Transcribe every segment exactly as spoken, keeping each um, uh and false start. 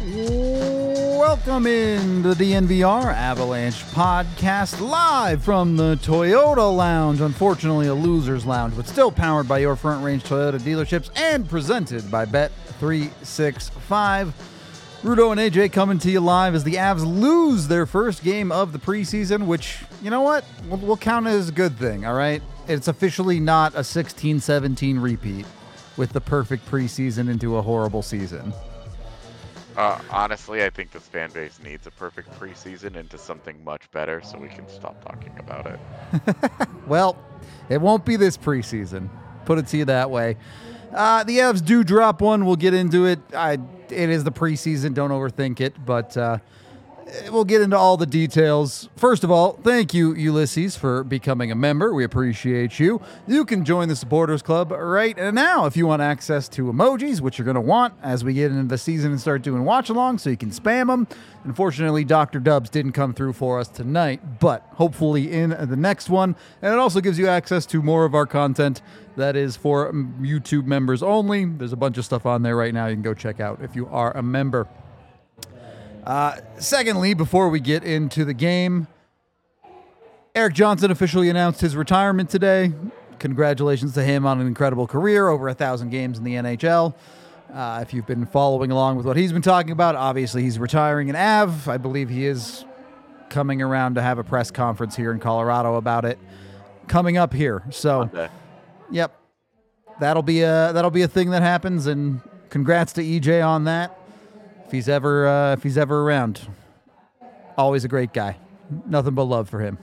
Welcome in to the D N V R Avalanche podcast live from the Toyota Lounge. Unfortunately, a loser's lounge, but still powered by your Front Range Toyota dealerships and presented by Bet three sixty-five. Rudo and A J coming to you live as the Avs lose their first game of the preseason, which, you know what, we'll, we'll count as a good thing, all right? It's officially not a sixteen seventeen repeat with the perfect preseason into a horrible season. Uh, honestly, I think this fan base needs a perfect preseason into something much better so we can stop talking about it. Well, it won't be this preseason. Put it to you that way. Uh, the Avs do drop one. We'll get into it. I, it is the preseason. Don't overthink it. But uh, we'll get into all the details. First of all, thank you, Ulysses, for becoming a member. We appreciate you. You can join the Supporters Club right now if you want access to emojis, which you're going to want as we get into the season and start doing watch-alongs, so you can spam them. Unfortunately, Doctor Dubs didn't come through for us tonight, but hopefully in the next one. And it also gives you access to more of our content that is for YouTube members only. There's a bunch of stuff on there right now you can go check out if you are a member. Uh, secondly, before we get into the game, Erik Johnson officially announced his retirement today. Congratulations to him on an incredible career, over a thousand games in the N H L. Uh, if you've been following along with what he's been talking about, obviously he's retiring in A V. I believe he is coming around to have a press conference here in Colorado about it coming up here. So, Monday. Yep, that'll be a that'll be a thing that happens. And congrats to E J on that. If he's ever uh, if he's ever around, always a great guy. Nothing but love for him.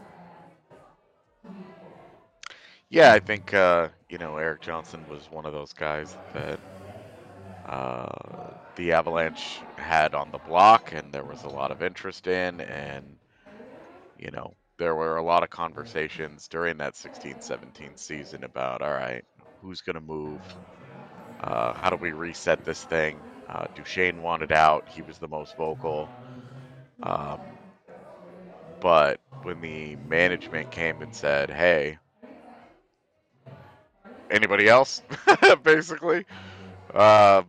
Yeah, I think uh, you know Erik Johnson was one of those guys that uh, the Avalanche had on the block, and there was a lot of interest in, and you know there were a lot of conversations during that sixteen seventeen season about, all right, who's going to move? Uh, how do we reset this thing? Uh, Duchesne wanted out. He was the most vocal. Um, but when the management came and said, hey, anybody else? Basically, uh,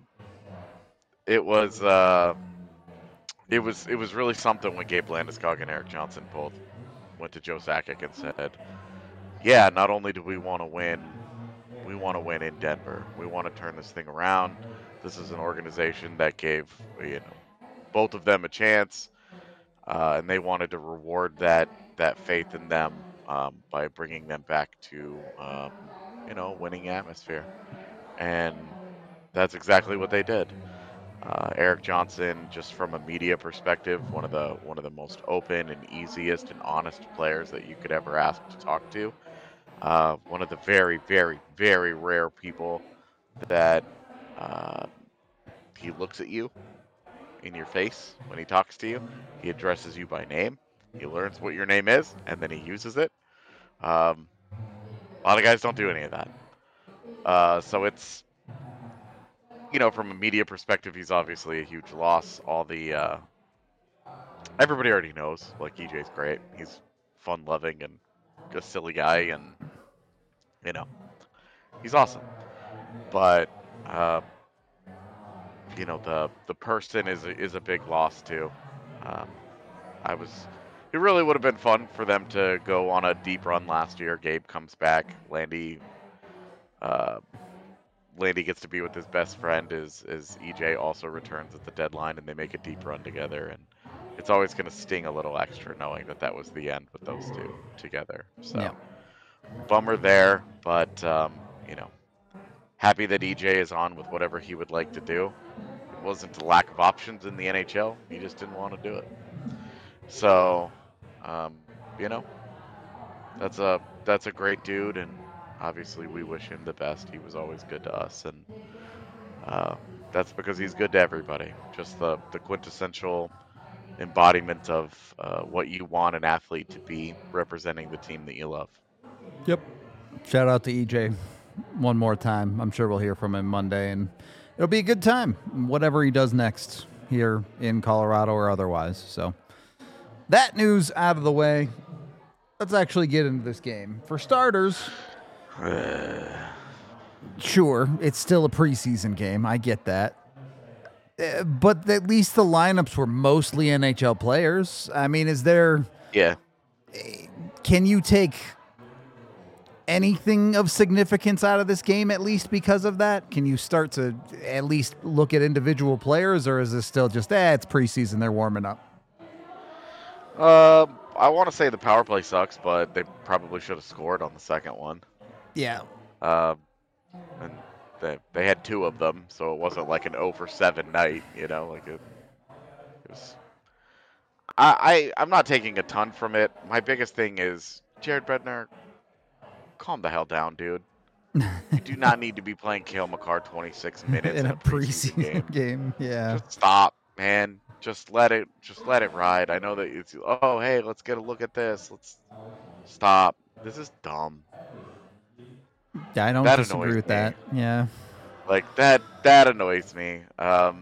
it was uh, it was it was really something when Gabe Landeskog and Erik Johnson both went to Joe Sakic and said, yeah, not only do we want to win, we want to win in Denver. We want to turn this thing around. This is an organization that gave, you know, both of them a chance, uh, and they wanted to reward that that faith in them um, by bringing them back to, um, you know, winning atmosphere. And that's exactly what they did. Uh, Erik Johnson, just from a media perspective, one of the one of the most open and easiest and honest players that you could ever ask to talk to. Uh, one of the very, very, very rare people that uh, he looks at you in your face when he talks to you. He addresses you by name. He learns what your name is, and then he uses it. Um, a lot of guys don't do any of that. Uh, so it's, you know, from a media perspective, he's obviously a huge loss. All the, uh, everybody already knows, like, E J's great. He's fun-loving and a silly guy, and, you know, he's awesome. But, uh, you know, the the person is a, is a big loss, too. Um, I was, it really would have been fun for them to go on a deep run last year. Gabe comes back. Landy, uh, Landy gets to be with his best friend as, as E J also returns at the deadline, and they make a deep run together. And it's always going to sting a little extra knowing that that was the end with those two together. So, yeah. Bummer there, but, um, you know, happy that E J is on with whatever he would like to do. It wasn't a lack of options in the N H L. He just didn't want to do it. So, um, you know, that's a that's a great dude, and obviously we wish him the best. He was always good to us, and uh, that's because he's good to everybody. Just the, the quintessential embodiment of uh, what you want an athlete to be, representing the team that you love. Yep. Shout out to E J one more time. I'm sure we'll hear from him Monday, and it'll be a good time, whatever he does next here in Colorado or otherwise. So that news out of the way, let's actually get into this game. For starters, sure, it's still a preseason game. I get that. Uh, but at least the lineups were mostly N H L players. I mean, is there? Yeah. Can you take anything of significance out of this game at least because of that? Can you start to at least look at individual players, or is this still just, eh, it's preseason, they're warming up? Uh, I want to say the power play sucks, but they probably should have scored on the second one. Yeah. Uh, and they they had two of them, so it wasn't like an oh for seven night, you know, like it, it was. I, I I'm not taking a ton from it. My biggest thing is Jared Bednar, calm the hell down, dude. You do not need to be playing Cale Makar twenty-six minutes in, in a a preseason, preseason game. game. Yeah. Just stop, man. Just let it just let it ride. I know that it's oh hey, let's get a look at this. Let's stop. This is dumb. Yeah, I don't That disagree annoys with me. that. Yeah. Like that that annoys me. Um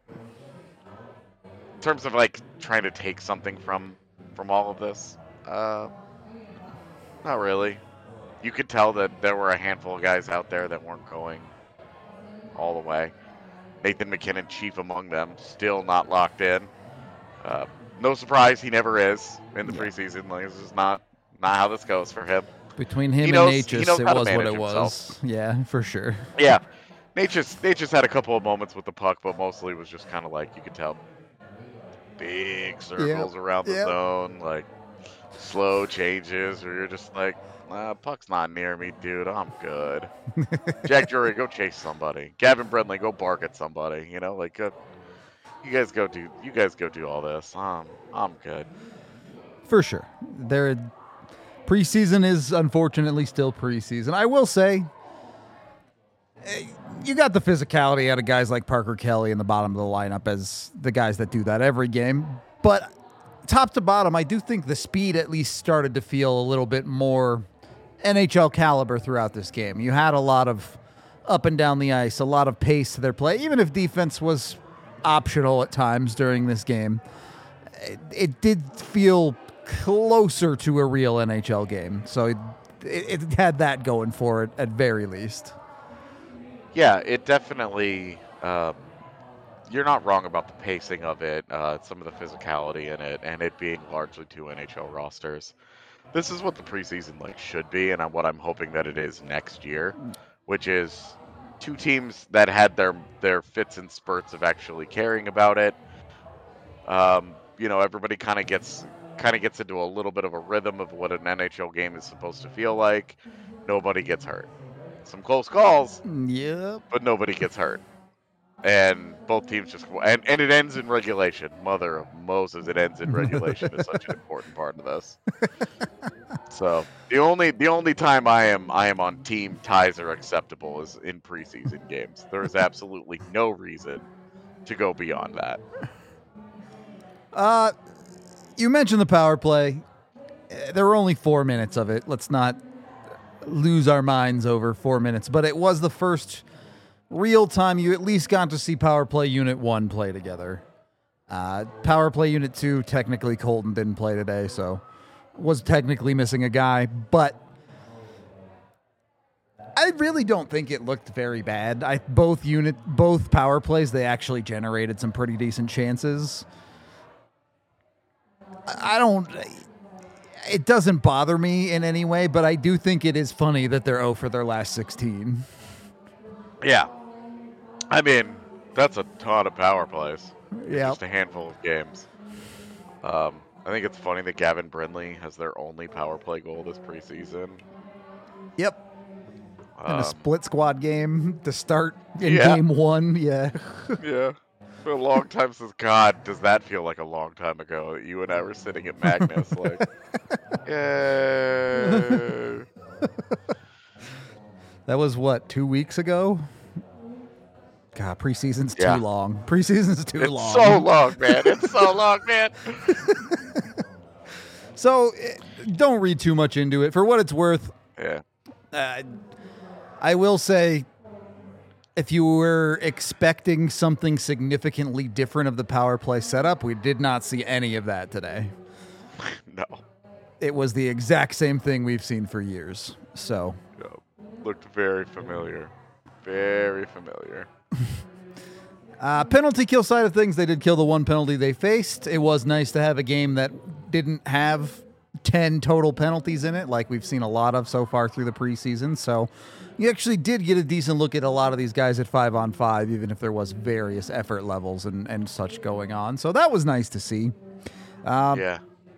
in terms of like trying to take something from from all of this. Uh not really. You could tell that there were a handful of guys out there that weren't going all the way. Nathan MacKinnon, chief among them, still not locked in. Uh, no surprise, he never is in the Yeah. preseason. Like, this is not not how this goes for him. Between him He and knows- he Natchez, knows it how to was what manage it was. himself. Yeah, for sure. Yeah, Natchez Natchez had a couple of moments with the puck, but mostly was just kind of like you could tell big circles around the yep. zone, like slow changes, where you're just like, nah, puck's not near me, dude. I'm good. Jack Drury, go chase somebody. Gavin Brindley, go bark at somebody. You know, like, uh, you guys go do, you guys go do all this. Um, I'm good. For sure. There, preseason is unfortunately still preseason. I will say, eh, you got the physicality out of guys like Parker Kelly in the bottom of the lineup as the guys that do that every game. But top to bottom, I do think the speed at least started to feel a little bit more N H L caliber throughout this game. You had a lot of up and down the ice, a lot of pace to their play, even if defense was optional at times during this game. It, it did feel closer to a real N H L game. So it, it, it had that going for it at very least. Yeah, it definitely. Um, you're not wrong about the pacing of it, uh, some of the physicality in it, and it being largely two N H L rosters. This is what the preseason like should be, and what I'm hoping that it is next year, which is two teams that had their their fits and spurts of actually caring about it. Um, you know, everybody kind of gets kind of gets into a little bit of a rhythm of what an N H L game is supposed to feel like. Nobody gets hurt. Some close calls, Yep. but nobody gets hurt. And both teams just and, and it ends in regulation. Mother of Moses, it ends in regulation is such an important part of this. So the only the only time I am I am on team ties are acceptable is in preseason games. There is absolutely no reason to go beyond that. Uh, you mentioned the power play. Uh, There were only four minutes of it. Let's not lose our minds over four minutes. But it was the first real time you at least got to see power play unit one play together. Uh, power play unit two, technically Colton didn't play today, so was technically missing a guy. But I really don't think it looked very bad. I both unit both power plays, they actually generated some pretty decent chances. I don't. It doesn't bother me in any way, but I do think it is funny that they're oh for their last sixteen. Yeah. I mean, that's a ton of power plays. in Yeah. Just a handful of games. Um, I think it's funny that Gavin Brindley has their only power play goal this preseason. Yep. In Um, a split squad game to start in yeah. game one. Yeah. Yeah. For a long time since, God, does that feel like a long time ago? You and I were sitting at Magnus, like, yay. That was what, two weeks ago? God, preseason's Yeah. too long. Preseason's too It's long. so long, man. It's so long, man. So eh, don't read too much into it. For what it's worth, Yeah. uh, I will say, if you were expecting something significantly different of the power play setup, we did not see any of that today. No. It was the exact same thing we've seen for years. So, No. Looked very familiar. Very familiar. Uh, penalty kill side of things, they did kill the one penalty they faced. It was nice to have a game that didn't have ten total penalties in it, like we've seen a lot of so far through the preseason. So you actually did get a decent look at a lot of these guys at five on five, even if there was various effort levels and, and such going on. So that was nice to see. Um, yeah.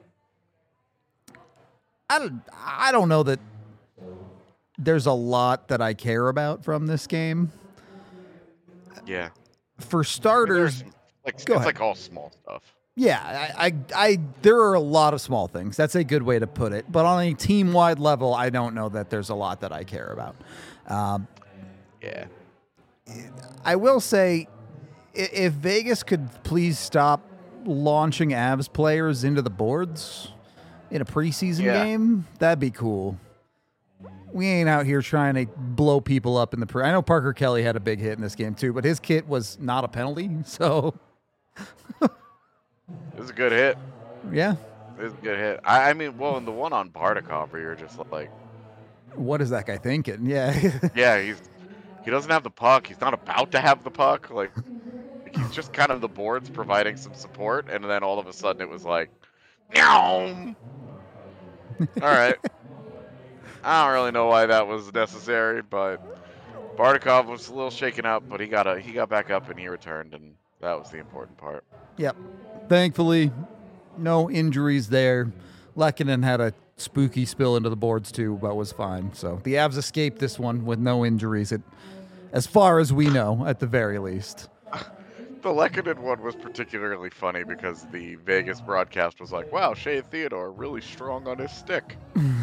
I don't, I don't know that there's a lot that I care about from this game. Yeah. For starters, I mean, like it's go ahead. like all small stuff. Yeah, I, I, I, there are a lot of small things. That's a good way to put it. But on a team-wide level, I don't know that there's a lot that I care about. Um, yeah. I will say, if Vegas could please stop launching Avs players into the boards in a preseason Yeah. game, that'd be cool. We ain't out here trying to blow people up in the pre. I know Parker Kelly had a big hit in this game too, but his kit was not a penalty. So, It was a good hit. yeah. It was a good hit. I, I mean, well, in the one on Bardakov, where you're just like, What is that guy thinking? Yeah. yeah, he's he doesn't have the puck. He's not about to have the puck. Like, he's just kind of the boards providing some support, and then all of a sudden it was like, meow. All right. I don't really know why that was necessary, but Bardakov was a little shaken up, but he got a he got back up and he returned, and that was the important part. Yep. Thankfully, no injuries there. Lehkonen had a spooky spill into the boards too, but was fine. So the Avs escaped this one with no injuries, at, as far as we know, at the very least. The Lehkonen one was particularly funny because the Vegas broadcast was like, wow, Shea Theodore really strong on his stick.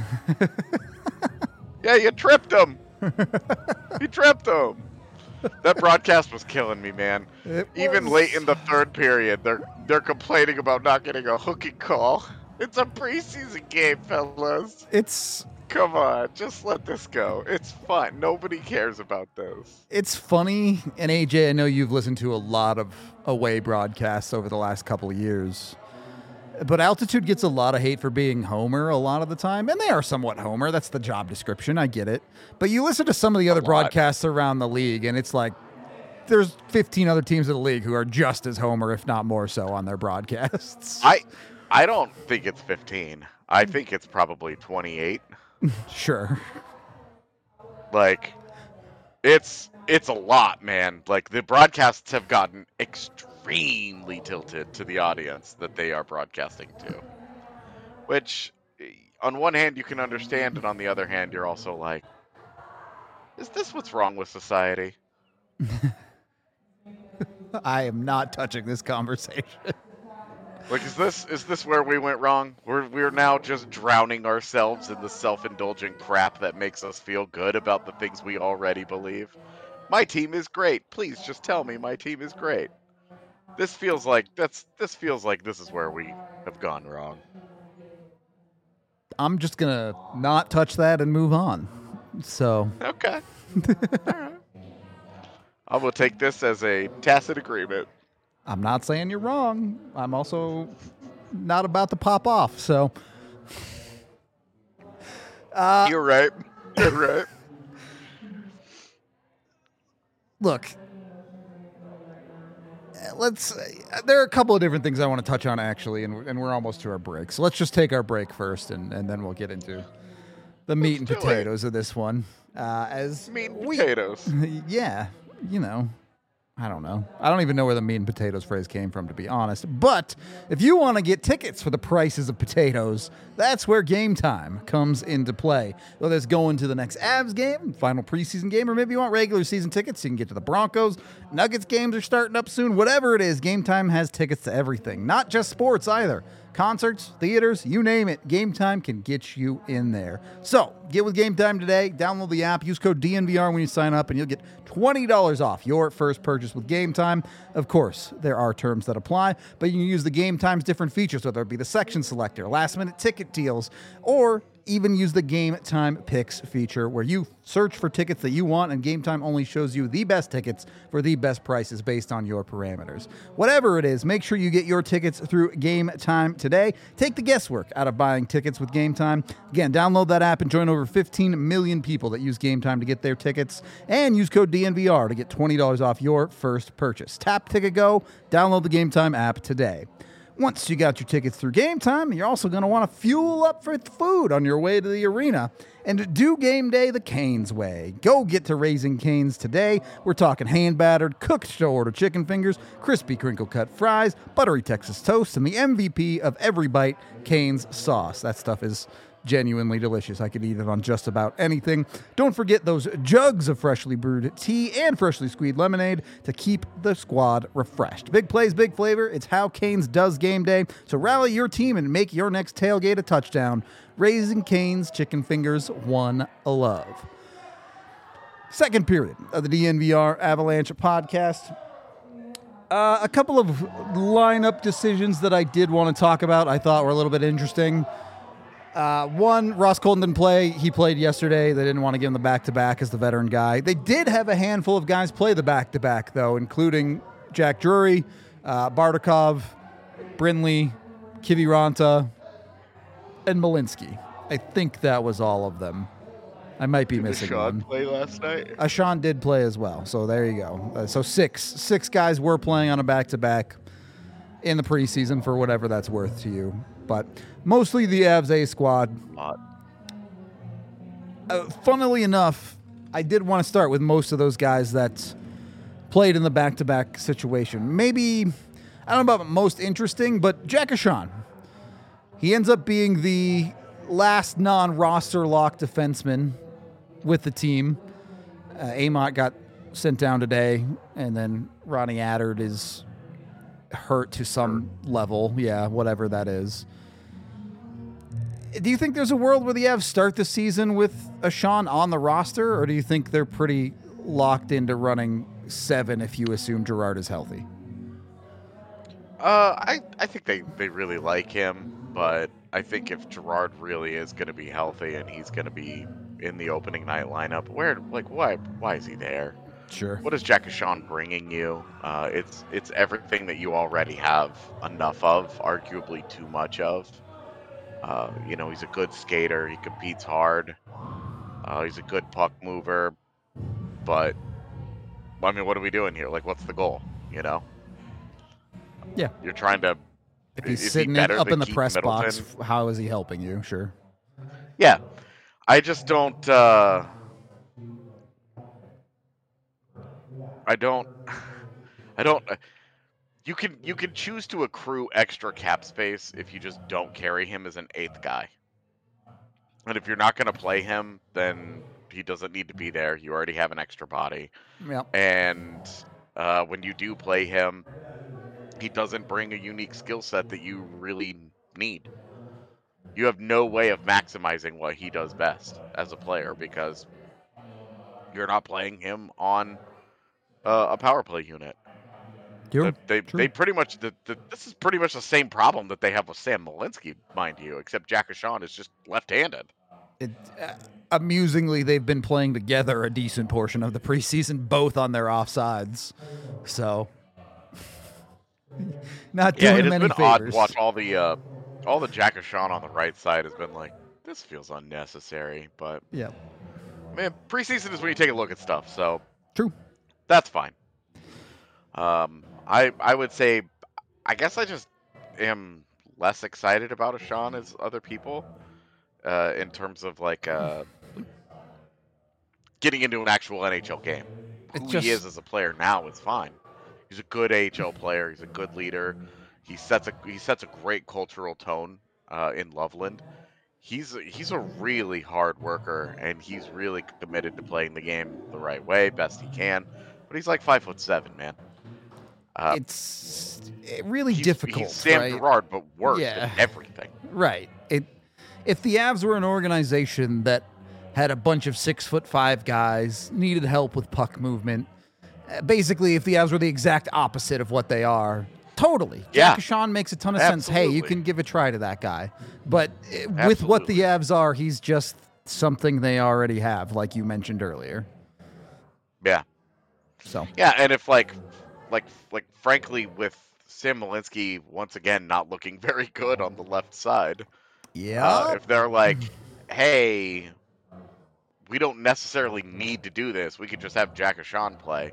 Yeah, you tripped him. You tripped him. That broadcast was killing me, man. It Even was- late in the third period, they're they're complaining about not getting a hooking call. It's a preseason game, fellas. It's Come on, just let this go. It's fun. Nobody cares about this. it's funny, and A J, I know you've listened to a lot of away broadcasts over the last couple of years. But Altitude gets a lot of hate for being Homer a lot of the time, and they are somewhat Homer. That's the job description. I get it. But you listen to some of the other lot. broadcasts around the league, and it's like there's fifteen other teams in the league who are just as Homer, if not more so, on their broadcasts. I I don't think it's fifteen. I think it's probably twenty-eight. Sure. Like, it's it's a lot, man. Like, the broadcasts have gotten extremely tilted to the audience that they are broadcasting to. Which, on one hand, you can understand, and on the other hand, you're also like, is this what's wrong with society? I am not touching this conversation. Like, is this is this where we went wrong? We're we're now just drowning ourselves in the self-indulgent crap that makes us feel good about the things we already believe. My team is great. Please just tell me my team is great. This feels like that's this feels like this is where we have gone wrong. I'm just going to not touch that and move on. So, Okay. All right. I will take this as a tacit agreement. I'm not saying you're wrong. I'm also not about to pop off. So, uh, You're right. You're right. look, let's. Uh, there are a couple of different things I want to touch on actually, and, and we're almost to our break. So let's just take our break first, and, and then we'll get into the meat and do it. potatoes of this one. Uh, as Meat and we- potatoes. yeah, you know. I don't know. I don't even know where the meat and potatoes phrase came from, to be honest. But if you want to get tickets for the prices of potatoes, that's where Game Time comes into play. Whether it's going to the next Avs game, final preseason game, or maybe you want regular season tickets, you can get to the Broncos. Nuggets games are starting up soon. Whatever it is, Game Time has tickets to everything. Not just sports either. Concerts, theaters, you name it. Game Time can get you in there. So get with Game Time today. Download the app. Use code D N V R when you sign up, and you'll get twenty dollars off your first purchase with Game Time. Of course, there are terms that apply, but you can use the Game Time's different features, whether it be the section selector, last-minute ticket deals, or even use the Game Time Picks feature where you search for tickets that you want, and Game Time only shows you the best tickets for the best prices based on your parameters. Whatever it is, make sure you get your tickets through Game Time today. Take the guesswork out of buying tickets with Game Time. Again, download that app and join over fifteen million people that use Game Time to get their tickets, and use code D N V R to get twenty dollars off your first purchase. Tap Ticket Go, download the Game Time app today. Once you got your tickets through Game Time, you're also going to want to fuel up for food on your way to the arena and do game day the Canes way. Go get to Raising Cane's today. We're talking hand-battered, cooked-to-order chicken fingers, crispy crinkle-cut fries, buttery Texas toast, and the M V P of every bite, Cane's sauce. That stuff is genuinely delicious. I could eat it on just about anything. Don't forget those jugs of freshly brewed tea and freshly squeezed lemonade to keep the squad refreshed. Big plays, big flavor. It's how Canes does game day. So rally your team and make your next tailgate a touchdown. Raising Cane's chicken fingers, one love. Second period of the D N V R Avalanche podcast. Uh, a couple of lineup decisions that I did want to talk about I thought were a little bit interesting. Uh, one, Ross Colton didn't play. He played yesterday. They didn't want to give him the back-to-back as the veteran guy. They did have a handful of guys play the back-to-back, though, including Jack Drury, uh, Bardakov, Brindley, Kiviranta, and Malinsky. I think that was all of them. I might be Did missing Sean one. play last night? Uh, Sean did play as well, so there you go. Uh, so six. Six guys were playing on a back-to-back in the preseason for whatever that's worth to you. But mostly the Avs A squad. Uh, funnily enough, I did want to start with most of those guys that played in the back-to-back situation. Maybe, I don't know about most interesting, but Jack Ahcan. He ends up being the last non-roster lock defenseman with the team. Uh, Amott got sent down today, and then Ronnie Attard is hurt to some level. Yeah, whatever that is. Do you think there's a world where the Avs start the season with Ahcan on the roster, or do you think they're pretty locked into running seven if you assume Girard is healthy? Uh, I, I think they, they really like him, but I think if Girard really is going to be healthy and he's going to be in the opening night lineup, where like why why is he there? Sure. What is Jack Ahcan bringing you? Uh, it's it's everything that you already have enough of, arguably too much of. Uh, you know, he's a good skater. He competes hard. Uh, he's a good puck mover. But, I mean, what are we doing here? Like, what's the goal? You know? Yeah. You're trying to... If he's is sitting he in, up in the Keith press Middleton? box, how is he helping you? Sure. Yeah. I just don't... Uh, I don't... I don't... You can you can choose to accrue extra cap space if you just don't carry him as an eighth guy. And if you're not going to play him, then he doesn't need to be there. You already have an extra body. Yep. And uh, when you do play him, he doesn't bring a unique skill set that you really need. You have no way of maximizing what he does best as a player because you're not playing him on uh, a power play unit. True. They True. they pretty much the, the, this is pretty much the same problem that they have with Sam Malinsky, mind you, except Jack Ahcan is just left-handed. It, uh, amusingly, they've been playing together a decent portion of the preseason, both on their offsides. So, not doing Yeah, it them has any been odd favors. to watch all the uh, all the Jack Ahcan on the right side has been like, this feels unnecessary, but Yeah. man, preseason is when you take a look at stuff, so True. that's fine. Um, I I would say, I guess I just am less excited about Ahcan as other people, uh, in terms of like uh, getting into an actual N H L game. It's Who just- he is as a player now is fine. He's a good A H L player. He's a good leader. He sets a he sets a great cultural tone uh, in Loveland. He's he's a really hard worker, and he's really committed to playing the game the right way, best he can. But he's like five foot seven, man. Uh, It's really he's, difficult, He's Sam right? Girard, but worse Yeah. at everything. Right. It, if the Avs were an organization that had a bunch of six foot five guys, needed help with puck movement, uh, basically if the Avs were the exact opposite of what they are, Totally. Yeah. Jack Sean makes a ton of sense. Hey, you Absolutely. can give a try to that guy. But uh, with what the Absolutely. Avs are, he's just something they already have, like you mentioned earlier. Yeah. So Yeah, and if like, like, like, frankly, with Sam Malinsky once again not looking very good on the left side, yeah, uh, if they're like, hey, we don't necessarily need to do this, we could just have Jack Sean play.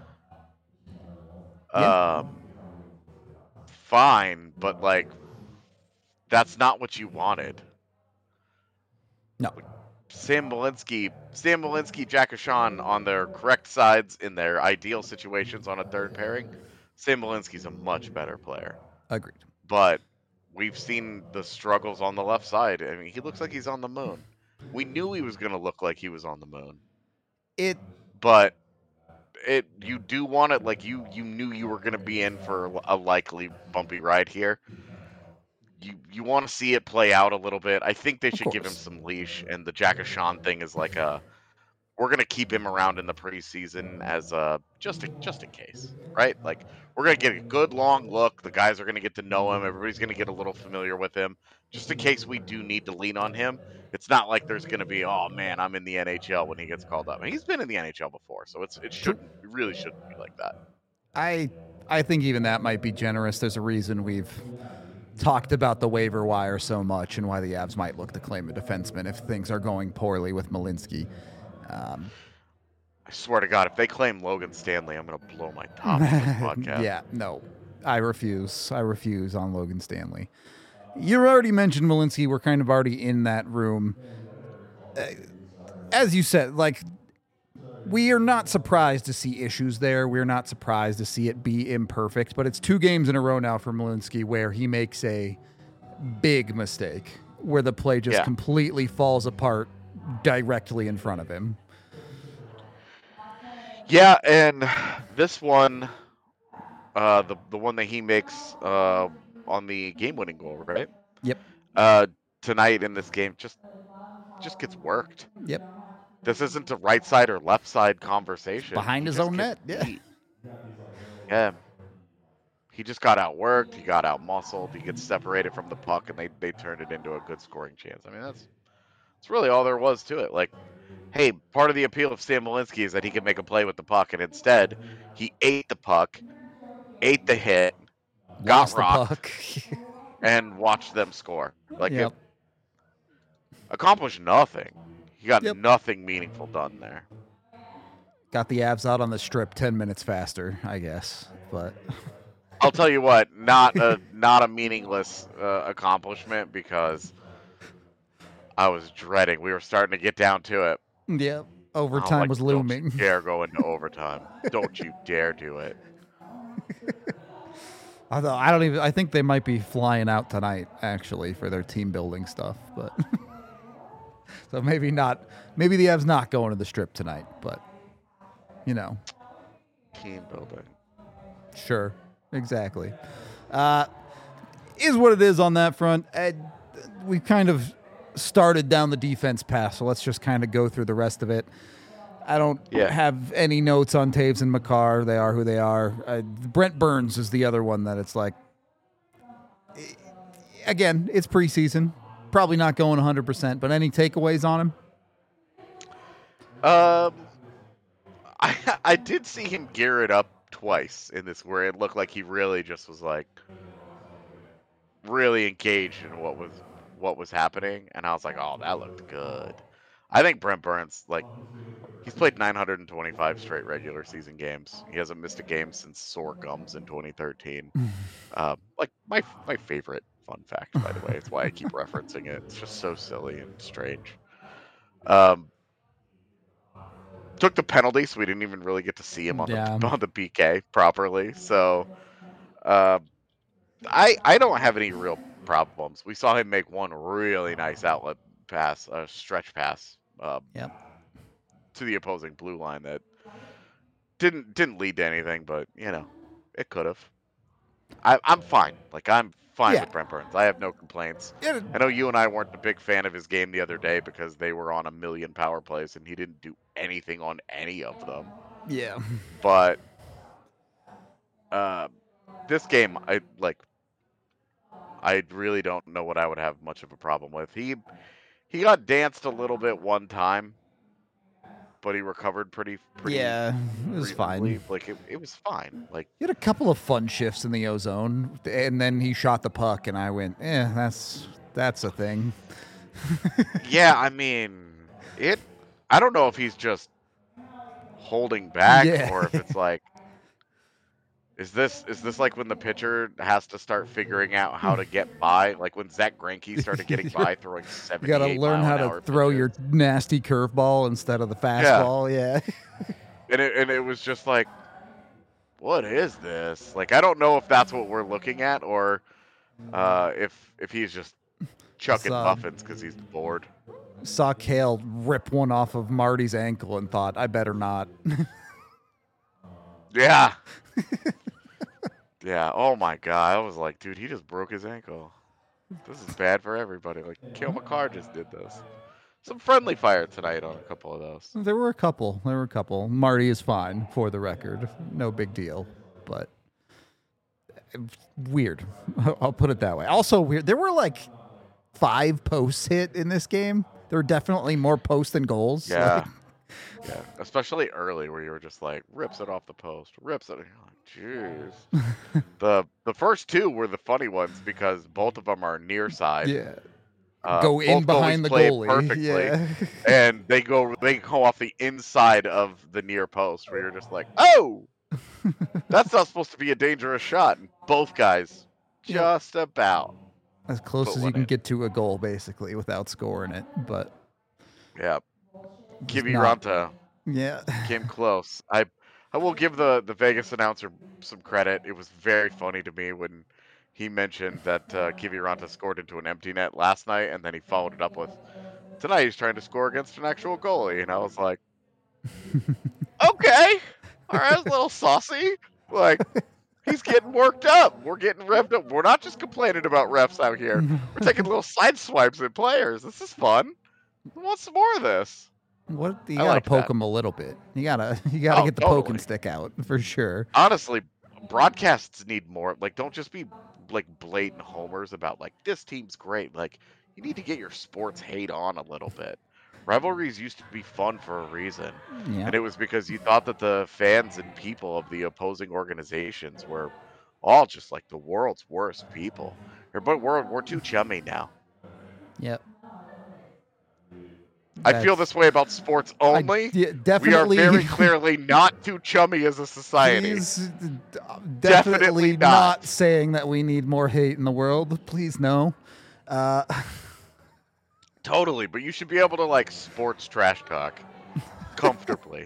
Yeah. Um, fine, but like, that's not what you wanted. no, Sam Malinsky, Sam Malinsky, Jack Sean on their correct sides in their ideal situations on a third pairing, Sam Malinsky's a much better player. agreed. But we've seen the struggles on the left side. I mean, he looks like he's on the moon. We knew he was going to look like he was on the moon. It But it you do want it like you you knew you were going to be in for a likely bumpy ride here. You you want to see it play out a little bit. I think they Of should give him course. some leash, and the Jack Sean thing is like a we're gonna keep him around in the preseason as a just a, just in case, right? Like we're gonna get a good long look. The guys are gonna get to know him. Everybody's gonna get a little familiar with him, just in case we do need to lean on him. It's not like there's gonna be, oh man, I'm in the N H L when he gets called up. And he's been in the N H L before, so it's it True. shouldn't it really shouldn't be like that. I I think even that might be generous. There's a reason we've talked about the waiver wire so much and why the Avs might look to claim a defenseman if things are going poorly with Malinsky. Um, I swear to God, if they claim Logan Stanley, I'm gonna blow my top on this podcast. yeah, no, I refuse. I refuse on Logan Stanley. You already mentioned Malinsky. We're kind of already in that room. Uh, as you said, like, we are not surprised to see issues there. We're not surprised to see it be imperfect, but it's two games in a row now for Malinsky where he makes a big mistake, where the play just Yeah. completely falls apart directly in front of him. Yeah, and this one, uh, the the one that he makes uh, on the game-winning goal, right? Yep. Uh, tonight in this game, just just gets worked. Yep. This isn't a right side or left side conversation. Behind He his just own gets net. Yeah. beat. Yeah. He just got outworked. He got out-muscled. He gets separated from the puck, and they, they turned it into a good scoring chance. I mean, that's that's really all there was to it. Like, hey, part of the appeal of Sam Malinsky is that he can make a play with the puck, and instead, he ate the puck, ate the hit, got Lost the rocked, puck. and watched them score. Like, Yep. it accomplished nothing. He got Yep. nothing meaningful done there. Got the Avs out on the strip ten minutes faster, I guess. But I'll tell you what, not a not a meaningless uh, accomplishment because I was dreading. We were starting to get down to it. yeah, I'm overtime like, was don't looming. you dare go into overtime. Don't you dare do it. Although I don't even. I think they might be flying out tonight, actually, for their team building stuff. But so maybe not. Maybe the Avs not going to the strip tonight. But you know, Team building. sure, exactly. Uh, is what it is on that front. Uh, we kind of started down the defense path, so let's just kind of go through the rest of it. I don't Yeah. have any notes on Taves and Makar. They are who they are. Uh, Brent Burns is the other one that it's like, again, it's preseason. Probably not going one hundred percent, but any takeaways on him? Um, I I did see him gear it up twice in this where it looked like he really just was like really engaged in what was what was happening, and I was like, oh, that looked good. I think Brent Burns, like, he's played nine hundred twenty-five straight regular season games. He hasn't missed a game since sore gums in twenty thirteen. uh, like my my favorite fun fact, by the way. It's why I keep referencing it. It's just so silly and strange. Um, took the penalty, so we didn't even really get to see him on Yeah. the on the P K properly. So, uh, I I don't have any real problems. We saw him make one really nice outlet pass, a stretch pass, um, Yep. to the opposing blue line that didn't didn't lead to anything, but you know, it could have. I, I'm fine. Like I'm fine Yeah. with Brent Burns. I have no complaints. Yeah, I know you and I weren't a big fan of his game the other day because they were on a million power plays and he didn't do anything on any of them. yeah. But uh, this game, I like. I really don't know what I would have much of a problem with. He he got danced a little bit one time, but he recovered pretty pretty. Yeah, it was reasonably. fine. Like it, it was fine. Like He had a couple of fun shifts in the ozone, and then he shot the puck, and I went, "Eh, that's that's a thing." yeah, I mean it. I don't know if he's just holding back Yeah. or if it's like. Is this is this like when the pitcher has to start figuring out how to get by? Like when Zach Greinke started getting by throwing You seventy-eight got to learn mile how an to hour throw pitches. your nasty curveball instead of the fastball. Yeah. And it and it was just like, what is this? Like I don't know if that's what we're looking at or uh, if if he's just chucking So- muffins because he's bored. Saw Kale rip one off of Marty's ankle and thought, I better not. Yeah. yeah. Oh my god. I was like, dude, he just broke his ankle. This is bad for everybody. Like Kale McCarr just did this. Some friendly fire tonight on a couple of those. There were a couple. There were a couple. Marty is fine, for the record. No big deal. But weird. I'll put it that way. Also weird. There were like five posts hit in this game. There were definitely more posts than goals. Yeah. Like, Yeah. Especially early where you were just like, rips it off the post, rips it. You're like, jeez. the the first two were the funny ones because both of them are near side. yeah. Uh, Go in both behind goalies the play goalie. perfectly. Yeah. and they go they go off the inside of the near post where you're just like, oh, that's not supposed to be a dangerous shot. And both guys Yeah. just about. As close Put as you one can in. get to a goal, basically, without scoring it. But Yeah. just Kivi not- Ranta Yeah. came close. I I will give the, the Vegas announcer some credit. It was very funny to me when he mentioned that uh, Kivi Ranta scored into an empty net last night, and then he followed it up with, tonight he's trying to score against an actual goalie. And I was like, okay, all right, a little saucy. Like, he's getting worked up. We're getting revved up. We're not just complaining about refs out here. We're taking little side swipes at players. This is fun. I want some more of this. What you I gotta like poke that. him a little bit. You gotta you gotta Oh, get the totally. poking stick out for sure. Honestly, broadcasts need more. Like, don't just be like blatant homers about like this team's great. Like, you need to get your sports hate on a little bit. Rivalries used to be fun for a reason, Yeah. and it was because you thought that the fans and people of the opposing organizations were all just like the world's worst people. But we're we're too chummy now. Yep. I feel That's- this way about sports I- only. yeah, We are definitely very clearly not too chummy as a society. Please, d- definitely, Definitely not. not. saying that we need more hate in the world. Please no. Uh, Totally, but you should be able to like sports trash talk comfortably.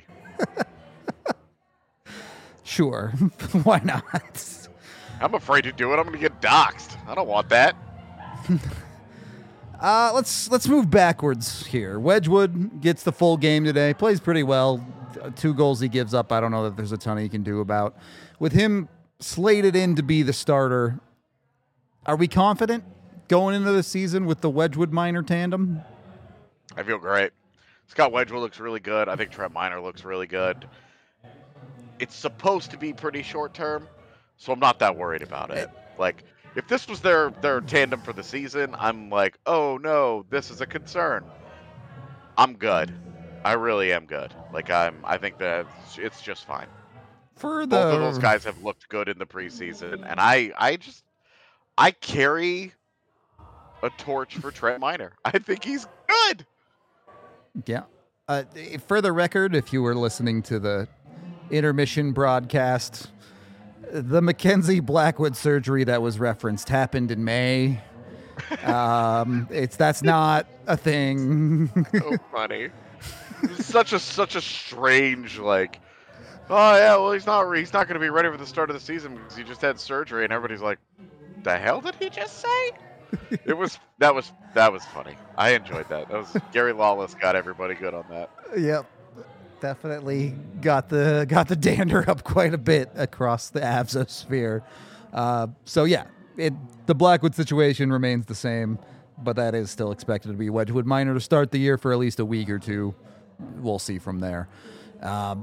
sure. Why not? I'm afraid to do it. I'm going to get doxxed. I don't want that. Uh, let's let's move backwards here. Wedgwood gets the full game today. Plays pretty well. Uh, Two goals he gives up. I don't know that there's a ton he can do about. With him slated in to be the starter, are we confident going into the season with the Wedgwood Minor tandem? I feel great. Scott Wedgwood looks really good. I think Trent Miner looks really good. It's supposed to be pretty short term, so I'm not that worried about it. Like, if this was their, their tandem for the season, I'm like, oh no, this is a concern. I'm good. I really am good. Like, I'm. I think that it's just fine. For the Both of those guys have looked good in the preseason, and I, I just, I carry a torch for Trent Miner. I think he's good. Yeah. Uh, for the record, if you were listening to the intermission broadcast, the Mackenzie Blackwood surgery that was referenced happened in May. Um, it's that's not a thing. So funny. It's such a such a strange like. Oh yeah, well he's not he's not going to be ready for the start of the season because he just had surgery, and everybody's like, "The hell did he just say?" It was that was that was funny. I enjoyed that. That was Gary Lawless got everybody good on that. Yep. Definitely got the got the dander up quite a bit across the Avsosphere. Uh, so yeah, it the Blackwood situation remains the same, but that is still expected to be Wedgwood Minor to start the year for at least a week or two. We'll see from there. Um,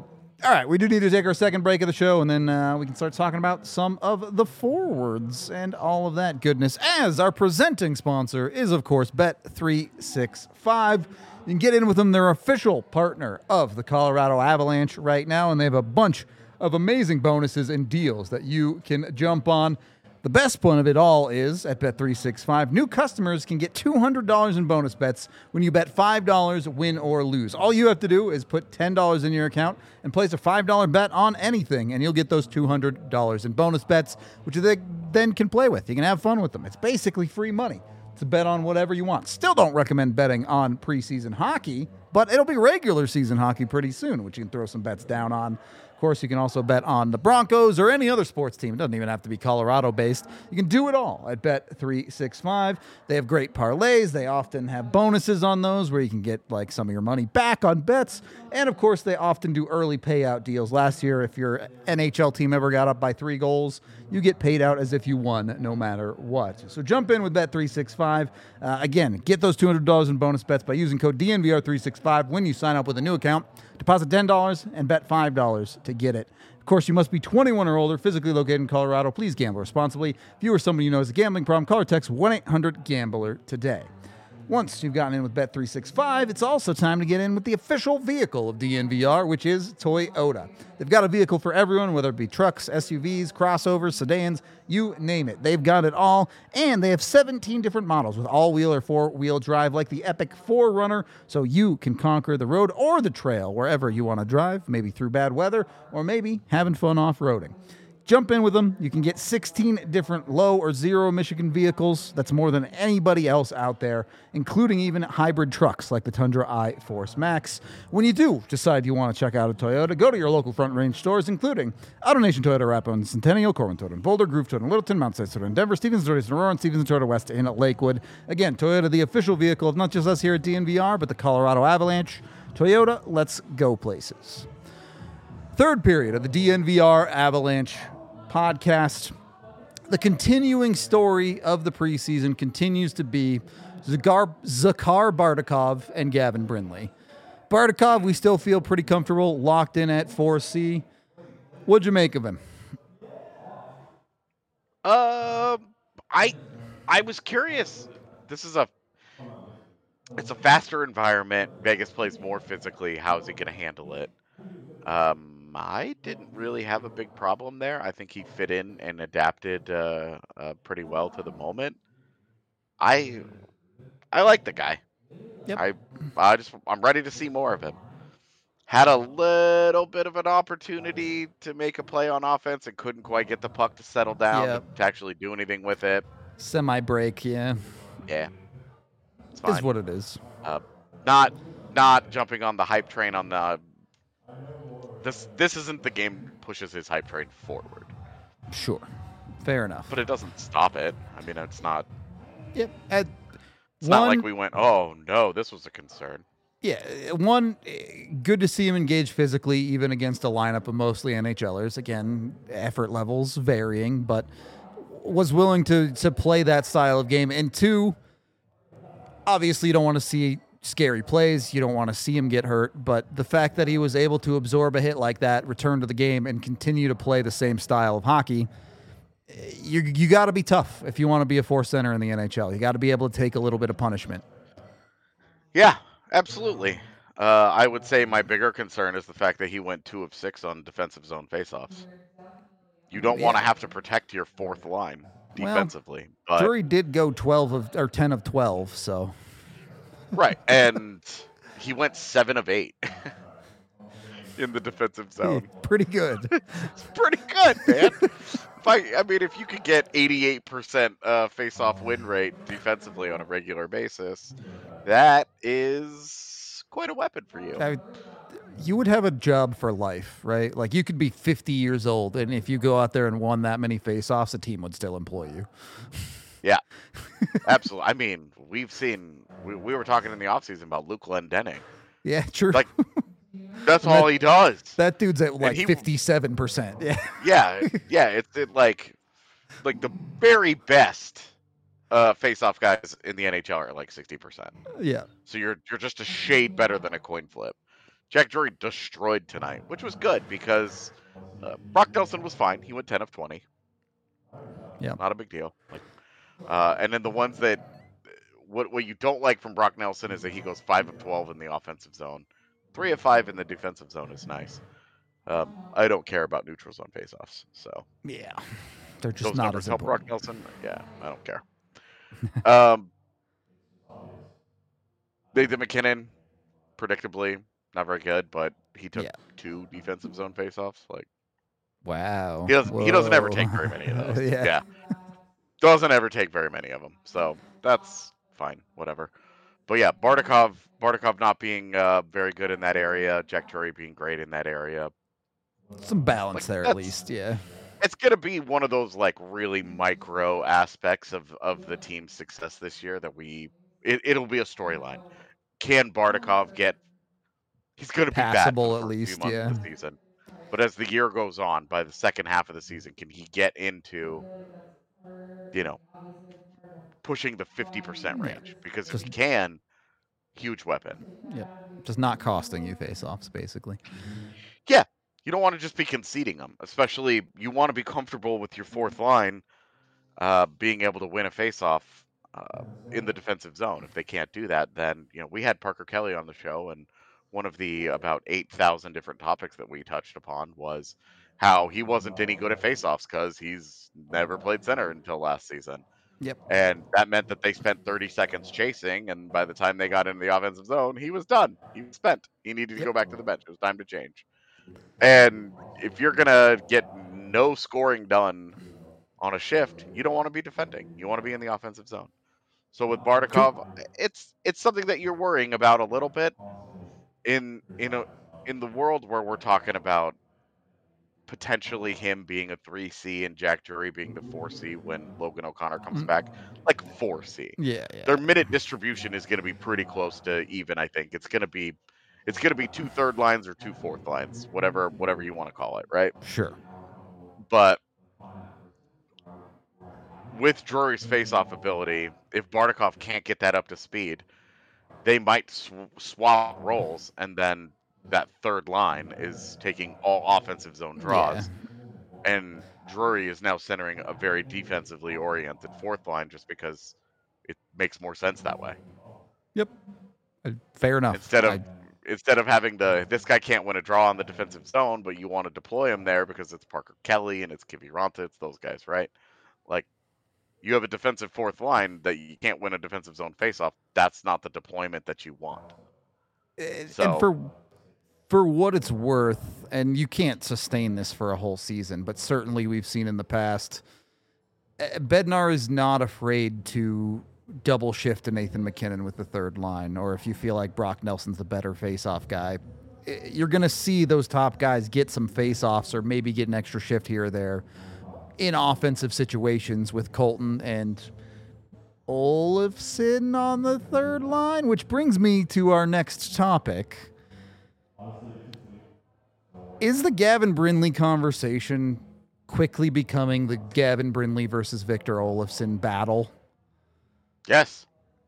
All right, we do need to take our second break of the show, and then uh, we can start talking about some of the forwards and all of that goodness. As our presenting sponsor is, of course, Bet three sixty-five. You can get in with them. They're official partner of the Colorado Avalanche right now, and they have a bunch of amazing bonuses and deals that you can jump on. The best one of it all is at Bet three sixty-five. New customers can get two hundred dollars in bonus bets when you bet five dollars, win or lose. All you have to do is put ten dollars in your account and place a five dollars bet on anything, and you'll get those two hundred dollars in bonus bets, which they then can play with. You can have fun with them. It's basically free money to bet on whatever you want. Still don't recommend betting on preseason hockey, but it'll be regular season hockey pretty soon, which you can throw some bets down on. Of course, you can also bet on the Broncos or any other sports team. It doesn't even have to be Colorado-based. You can do it all at Bet three sixty-five. They have great parlays. They often have bonuses on those where you can get like some of your money back on bets. And, of course, they often do early payout deals. Last year, if your N H L team ever got up by three goals, you get paid out as if you won no matter what. So jump in with Bet three sixty-five. Uh, again, get those two hundred dollars in bonus bets by using code D N V R three sixty-five when you sign up with a new account. Deposit ten dollars and bet five dollars to get it. Of course, you must be twenty-one or older, physically located in Colorado. Please gamble responsibly. If you or somebody you know has a gambling problem, call or text one eight hundred gambler today. Once you've gotten in with Bet three sixty-five, it's also time to get in with the official vehicle of D N V R, which is Toyota. They've got a vehicle for everyone, whether it be trucks, S U Vs, crossovers, sedans, you name it. They've got it all, and they have seventeen different models with all-wheel or four-wheel drive, like the Epic four runner, so you can conquer the road or the trail wherever you want to drive, maybe through bad weather, or maybe having fun off-roading. Jump in with them. You can get sixteen different low or zero emission vehicles. That's more than anybody else out there, including even hybrid trucks like the Tundra iForce Max. When you do decide you want to check out a Toyota, go to your local Front Range stores, including AutoNation Toyota Rapo, Centennial, Corwin Toyota, Boulder, Groove Toyota, Littleton, Mount Sinai Toyota, Denver, Stevens Toyota, Aurora, and Stevens Toyota West in Lakewood. Again, Toyota, the official vehicle of not just us here at D N V R, but the Colorado Avalanche. Toyota, let's go places. Third period of the D N V R Avalanche podcast. The continuing story of the preseason continues to be Zagar, Zakhar Bardakov and Gavin Brindley. Bardakov, we still feel pretty comfortable, locked in at four C. What'd you make of him? Uh, I I was curious. This is a it's a faster environment. Vegas plays more physically. How is he going to handle it? Um, I didn't really have a big problem there. I think he fit in and adapted uh, uh, pretty well to the moment. I I like the guy. Yep. I I just I'm ready to see more of him. Had a little bit of an opportunity to make a play on offense and couldn't quite get the puck to settle down Yep. to actually do anything with it. Semi-break, yeah. Yeah, it's fine. Is what it is. Uh, not not jumping on the hype train on the. This this isn't the game pushes his hype train forward. Sure. Fair enough. But it doesn't stop it. I mean, it's not. Yep. At It's one, not like we went, oh no, this was a concern. Yeah, one, good to see him engage physically, even against a lineup of mostly NHLers. Again, effort levels varying, but was willing to to play that style of game. And two, obviously you don't want to see scary plays. You don't want to see him get hurt. But the fact that he was able to absorb a hit like that, return to the game, and continue to play the same style of hockey, you you got to be tough if you want to be a fourth center in the N H L. You got to be able to take a little bit of punishment. Yeah, absolutely. Uh, I would say my bigger concern is the fact that he went two of six on defensive zone faceoffs. You don't Yeah. want to have to protect your fourth line defensively. Well, but, Drury did go twelve of or ten of twelve, so right, and he went seven of eight in the defensive zone. pretty good. It's pretty good, man. If I, I mean, if you could get eighty-eight percent uh, face-off win rate defensively on a regular basis, that is quite a weapon for you. I, you would have a job for life, right? Like you could be fifty years old, and if you go out there and won that many face-offs, a team would still employ you. Yeah, absolutely. I mean, we've seen, we, we were talking in the offseason about Luke Glendening. Yeah, true. Like, that's all he does. That dude's at like he- fifty-seven percent. Yeah. Yeah, yeah, it's it, like, like the very best uh, face-off guys in the N H L are like sixty percent. Yeah. So you're you're just a shade better than a coin flip. Jack Drury destroyed tonight, which was good because uh, Brock Nelson was fine. He went ten of twenty. Yeah. Not a big deal. Like, uh, and then the ones that what what you don't like from Brock Nelson is that he goes five of twelve in the offensive zone, three of five in the defensive zone is nice. Um, I don't care about neutral zone faceoffs, so Yeah. They're just those not numbers as help Brock important. Nelson. Yeah, I don't care. um, Nathan MacKinnon, predictably not very good, but he took Yeah. two defensive zone faceoffs. Like Wow. he doesn't he doesn't ever take Whoa. very many of those. Yeah. Yeah, doesn't ever take very many of them. So that's fine, whatever. But yeah, Bardakov, Bardakov not being uh, very good in that area, Jack Drury being great in that area. Some balance Like, there at that's- least, yeah. It's gonna be one of those like really micro aspects of of the team's success this year that we it, it'll be a storyline. Can Bardakov get? He's gonna be bad Passable for at the first few least, months yeah. of the season, but as the year goes on, by the second half of the season, can he get into, you know, pushing the fifty percent Yeah. range? Because if Just- he can, huge weapon. Yeah. Just not costing you face-offs, basically. Yeah, you don't want to just be conceding them, especially you want to be comfortable with your fourth line uh, being able to win a faceoff uh, in the defensive zone. If they can't do that, then you know we had Parker Kelly on the show, and one of the about eight thousand different topics that we touched upon was how he wasn't any good at faceoffs because he's never played center until last season. Yep. And that meant that they spent thirty seconds chasing, and by the time they got into the offensive zone, he was done. He was spent. He needed to Yep. go back to the bench. It was time to change. And if you're gonna get no scoring done on a shift, you don't want to be defending. You want to be in the offensive zone. So with Bardakov, it's it's something that you're worrying about a little bit in in a in the world where we're talking about potentially him being a three C and Jack Drury being the four C when Logan O'Connor comes Mm. back, like four C. Yeah, yeah. Their minute distribution is going to be pretty close to even. I think it's going to be it's going to be two third lines or two fourth lines, whatever whatever you want to call it, right? Sure. But with Drury's face-off ability, if Bardakov can't get that up to speed, they might sw- swap roles, and then that third line is taking all offensive zone draws, and Drury is now centering a very defensively oriented fourth line just because it makes more sense that way. Yep. Uh, Fair enough. Instead of I- instead of having the this guy can't win a draw on the defensive zone, but you want to deploy him there because it's Parker Kelly and it's Kiviranta, it's those guys, right? Like you have a defensive fourth line that you can't win a defensive zone faceoff. That's not the deployment that you want. And So- for for what it's worth, and you can't sustain this for a whole season, but certainly we've seen in the past, uh, Bednar is not afraid to double shift to Nathan MacKinnon with the third line, or if you feel like Brock Nelson's the better face-off guy, i- you're going to see those top guys get some face-offs or maybe get an extra shift here or there in offensive situations with Colton and Olofsson on the third line, which brings me to our next topic. Is the Gavin Brindley conversation quickly becoming the Gavin Brindley versus Victor Olofsson battle? Yes.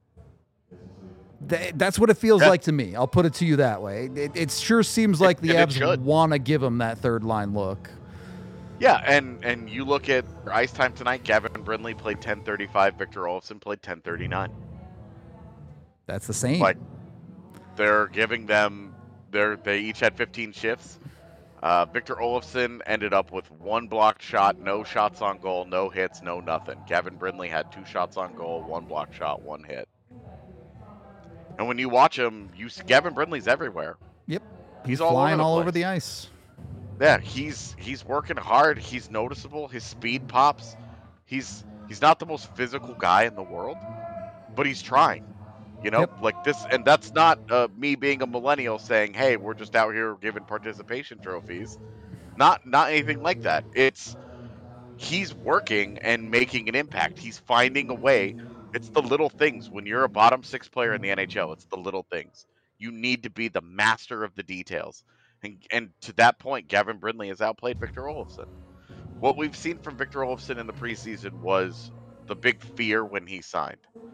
Th- that's what it feels Yeah. like to me. I'll put it to you that way. It, it sure seems like the and it Avs should. want to give him that third line look. Yeah, and and you look at ice time tonight. Gavin Brindley played ten thirty-five. Victor Olofsson played ten thirty-nine. That's the same. Like they're giving them they're they each had fifteen shifts. Uh, Victor Olofsson ended up with one blocked shot, no shots on goal, no hits, no nothing. Gavin Brindley had two shots on goal, one blocked shot, one hit. And when you watch him, you see Gavin Brindley's everywhere. Yep. He's He's all over flying the all over place. the ice. Yeah, he's he's working hard. He's noticeable. His speed pops. He's he's not the most physical guy in the world, but he's trying. You know, Yep. like this, and that's not uh, me being a millennial saying, "Hey, we're just out here giving participation trophies." Not not anything like that. It's he's working and making an impact. He's finding a way. It's the little things. When you're a bottom six player in the N H L, it's the little things. You need to be the master of the details. And and to that point, Gavin Brindley has outplayed Victor Olofsson. What we've seen from Victor Olofsson in the preseason was the big fear when he signed.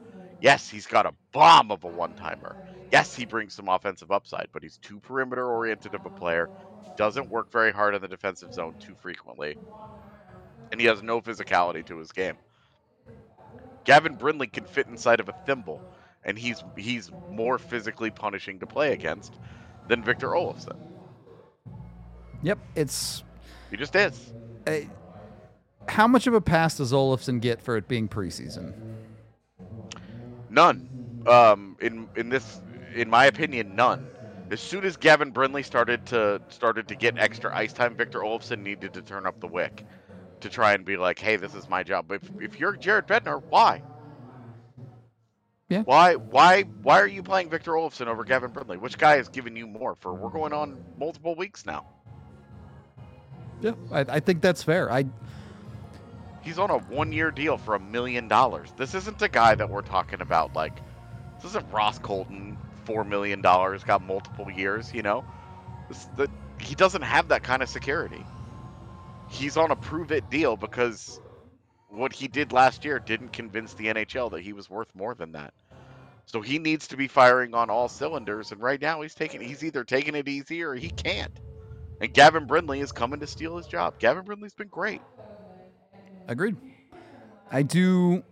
Yes, he's got a bomb of a one-timer. Yes, he brings some offensive upside, but he's too perimeter-oriented of a player. He doesn't work very hard in the defensive zone too frequently, and he has no physicality to his game. Gavin Brindley can fit inside of a thimble, and he's he's more physically punishing to play against than Victor Olofsson. Yep, it's He just is. Uh, how much of a pass does Olofsson get for it being preseason? None. Um, in in this, in my opinion, none. As soon as Gavin Brindley started to started to get extra ice time, Victor Olofsson needed to turn up the wick to try and be like, "Hey, this is my job." If if you're Jared Bednar, why? Yeah. Why why why are you playing Victor Olofsson over Gavin Brindley? Which guy has given you more for? We're going on multiple weeks now. Yeah, I, I think that's fair. I He's on a one-year deal for a million dollars. This isn't a guy that we're talking about like. This isn't Ross Colton, four million dollars, got multiple years. You know, this, the, he doesn't have that kind of security. He's on a prove-it deal because what he did last year didn't convince the N H L that he was worth more than that. So he needs to be firing on all cylinders, and right now he's taking he's either taking it easy or he can't. And Gavin Brindley is coming to steal his job. Gavin Brindley's been great. Agreed. I do.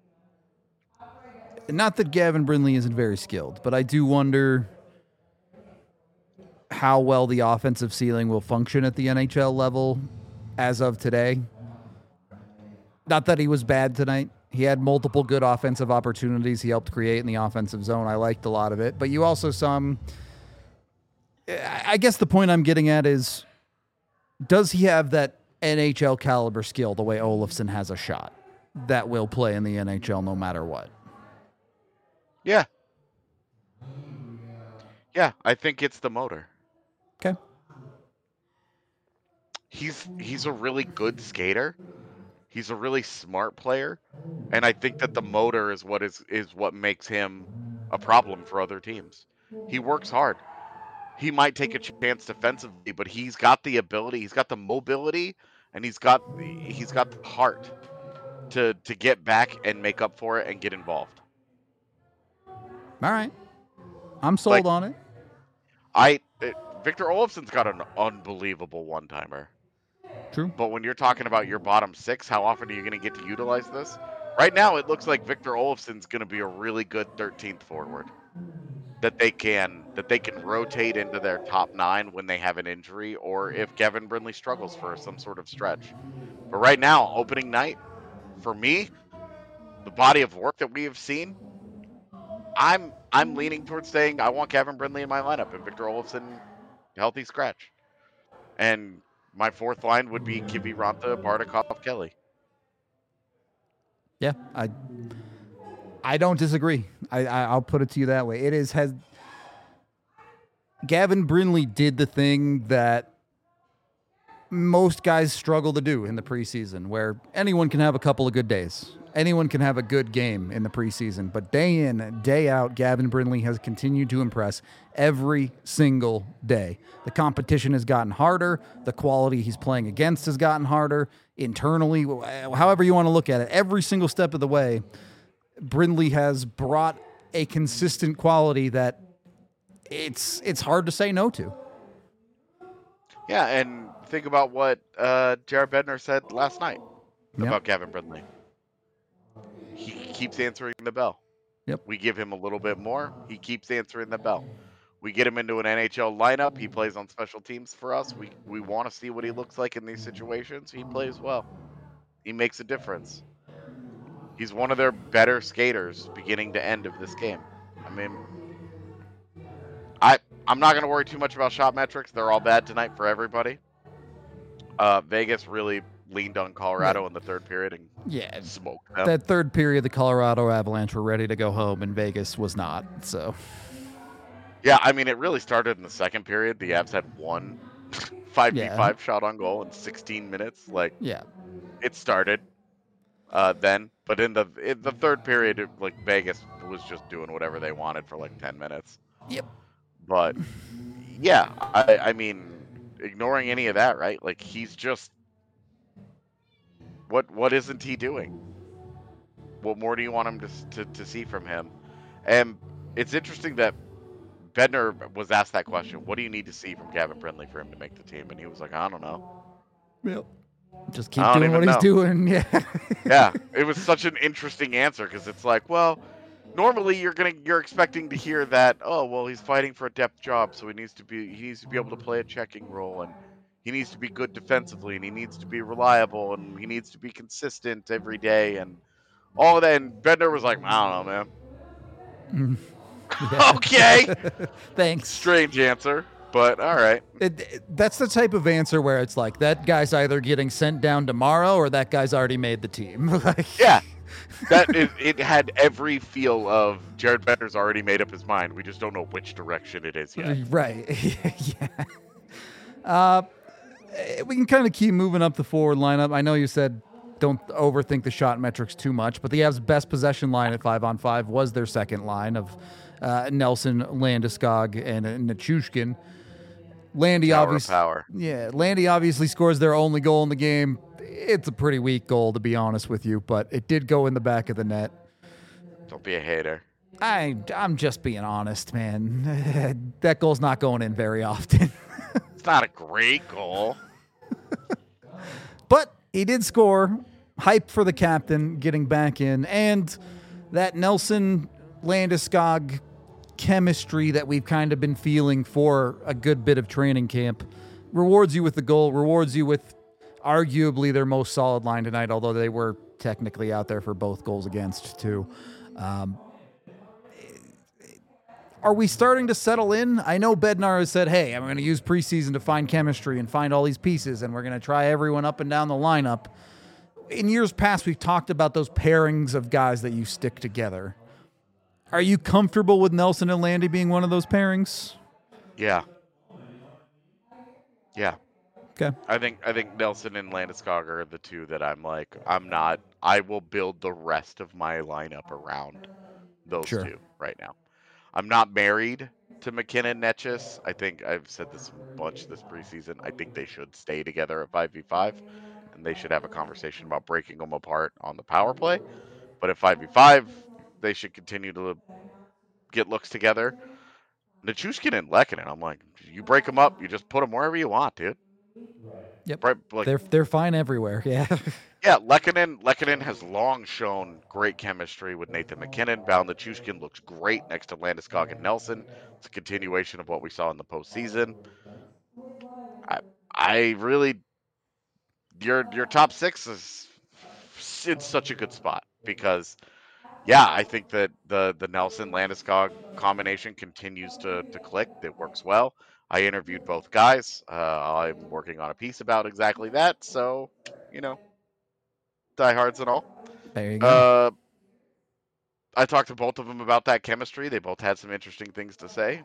Not that Gavin Brindley isn't very skilled, but I do wonder how well the offensive ceiling will function at the N H L level as of today. Not that he was bad tonight. He had multiple good offensive opportunities he helped create in the offensive zone. I liked a lot of it. But you also saw him. I guess the point I'm getting at is, does he have that N H L caliber skill the way Olofsson has a shot that will play in the N H L no matter what? Yeah. Yeah, I think it's the motor. Okay. He's he's a really good skater. He's a really smart player, and I think that the motor is what is is what makes him a problem for other teams. He works hard. He might take a chance defensively, but he's got the ability, he's got the mobility, and he's got he's got the heart to to get back and make up for it and get involved. All right. I'm sold Like, on it. I it, Victor Olofsson's got an unbelievable one-timer. True. But when you're talking about your bottom six, how often are you going to get to utilize this? Right now, it looks like Victor Olofsson's going to be a really good thirteenth forward that they can that they can rotate into their top nine when they have an injury, or if Gavin Brindley struggles for some sort of stretch. But right now, opening night, for me, the body of work that we have seen, I'm I'm leaning towards saying I want Gavin Brindley in my lineup and Victor Olofsson healthy scratch. And my fourth line would be Kivi Ranta, Bardakov, Kelly. Yeah, I I don't disagree. I, I I'll put it to you that way. It is has Gavin Brindley did the thing that most guys struggle to do in the preseason, where anyone can have a couple of good days. Anyone can have a good game in the preseason, but day in, day out, Gavin Brindley has continued to impress every single day. The competition has gotten harder. The quality he's playing against has gotten harder. Internally, however you want to look at it, every single step of the way, Brindley has brought a consistent quality that it's it's hard to say no to. Yeah, and think about what uh, Jared Bednar said last night Yep. about Gavin Brindley. He keeps answering the bell. Yep. We give him a little bit more. He keeps answering the bell. We get him into an N H L lineup. He plays on special teams for us. We we want to see what he looks like in these situations. He plays well. He makes a difference. He's one of their better skaters beginning to end of this game. I mean, I, I'm not going to worry too much about shot metrics. They're all bad tonight for everybody. Uh, Vegas really leaned on Colorado in the third period and Yeah, smoked them. that third period, the Colorado Avalanche were ready to go home, and Vegas was not. So, Yeah, I mean, it really started in the second period. The Avs had one five v five Yeah. shot on goal in sixteen minutes. Like, yeah, it started uh, then, but in the in the third period, it, like Vegas was just doing whatever they wanted for like ten minutes. Yep. But yeah, I, I mean, ignoring any of that, right? Like, he's just what what isn't he doing? What more do you want him to to, to see from him? And it's interesting that Bednar was asked that question. What do you need to see from Gavin Brindley for him to make the team? And he was like, I don't know. Yep. Just keep I don't doing what even he's know. doing. Yeah. Yeah, it was such an interesting answer because it's like, well, normally you're gonna you're expecting to hear that, oh well, he's fighting for a depth job, so he needs to be he needs to be able to play a checking role, and he needs to be good defensively, and he needs to be reliable, and he needs to be consistent every day, and all of that. And Bednar was like, I don't know, man. Yeah. Okay. Thanks. Strange answer, but all right. It, it- that's the type of answer where it's like that guy's either getting sent down tomorrow or that guy's already made the team. Like, Yeah, that it, it had every feel of Jared Bednar's already made up his mind. We just don't know which direction it is yet. right. Yeah. Uh, we can kind of keep moving up the forward lineup. I know you said don't overthink the shot metrics too much, but the Avs' best possession line at five on five was their second line of uh, Nelson, Landeskog, and uh, Nichushkin. Landy Tower of obviously, power. yeah, Landy obviously scores their only goal in the game. It's a pretty weak goal, to be honest with you, but it did go in the back of the net. Don't be a hater. I, I'm just being honest, man. That goal's not going in very often. It's not a great goal. But he did score. Hype for the captain getting back in. And that Nelson Landeskog chemistry that we've kind of been feeling for a good bit of training camp rewards you with the goal, rewards you with arguably their most solid line tonight, although they were technically out there for both goals against, too. Um, are we starting to settle in? I know Bednar has said, hey, I'm going to use preseason to find chemistry and find all these pieces, and we're going to try everyone up and down the lineup. In years past, we've talked about those pairings of guys that you stick together. Are you comfortable with Nelson and Landy being one of those pairings? Yeah. Yeah. Okay. I think I think Nelson and Landeskog are the two that I'm like, I'm not, I will build the rest of my lineup around those Sure. two right now. I'm not married to McKinnon Netchus. I think I've said this a bunch this preseason. I think they should stay together at five v five, and they should have a conversation about breaking them apart on the power play. But at five v five, they should continue to get looks together. Nichushkin and Lehkonen, I'm like, you break them up, you just put them wherever you want, dude. Yep. Right, like, They're they're fine everywhere. Yeah. yeah, Lehkonen, Lehkonen has long shown great chemistry with Nathan McKinnon. Val Nichushkin looks great next to Landeskog and Nelson. It's a continuation of what we saw in the postseason. I, I really, your your top six is in such a good spot because, yeah, I think that the the Nelson Landeskog combination continues to to click. It works well. I interviewed both guys. Uh, I'm working on a piece about exactly that. So, you know, diehards and all. There you go. Uh, I talked to both of them about that chemistry. They both had some interesting things to say.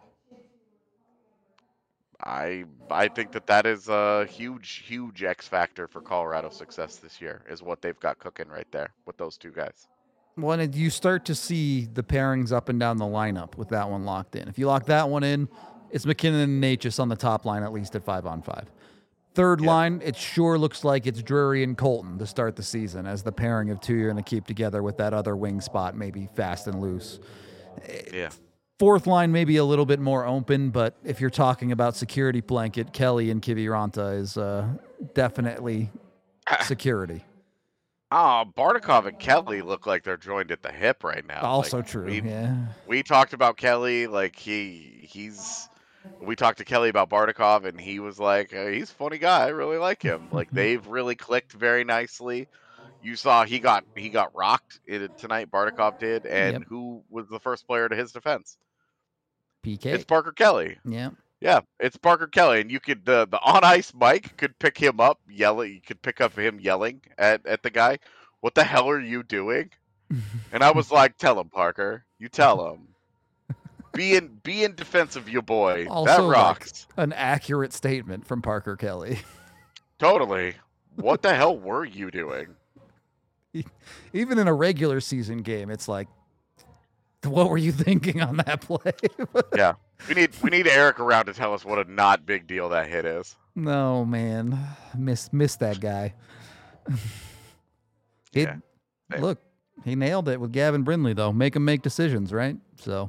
I I think that that is a huge, huge X factor for Colorado's success this year, is what they've got cooking right there with those two guys. When you start to see the pairings up and down the lineup with that one locked in. If you lock that one in, it's McKinnon and Natchez on the top line, at least at five on five. Third Yeah. line, it sure looks like it's Drury and Colton to start the season as the pairing of two you're going to keep together with that other wing spot, maybe fast and loose. Yeah. Fourth line, maybe a little bit more open, but if you're talking about security blanket, Kelly and Kiviranta is uh, definitely security. Oh, Bardakov and Kelly look like they're joined at the hip right now. Also Like, true, We, yeah. we talked about Kelly, like he he's. We talked to Kelly about Bardakov, and he was like, uh, "He's a funny guy. I really like him." Like they've really clicked very nicely. You saw he got he got rocked in, tonight. Bardakov did, and Yep. who was the first player to his defense? P K. It's Parker Kelly. Yeah. Yeah, it's Parker Kelly, and you could the the on ice mic could pick him up, yelling. You could pick up him yelling at at the guy. What the hell are you doing? And I was like, "Tell him, Parker. You tell him. Be in be in defense of your boy. Also, that like, rocks. an accurate statement from Parker Kelly. Totally. What the hell were you doing?" Even in a regular season game, it's like, what were you thinking on that play? Yeah, we need we need Eric around to tell us what a not big deal that hit is. No, man. Miss miss that guy. It Yeah. Same. look, He nailed it with Gavin Brindley, though. Make him make decisions, right? So,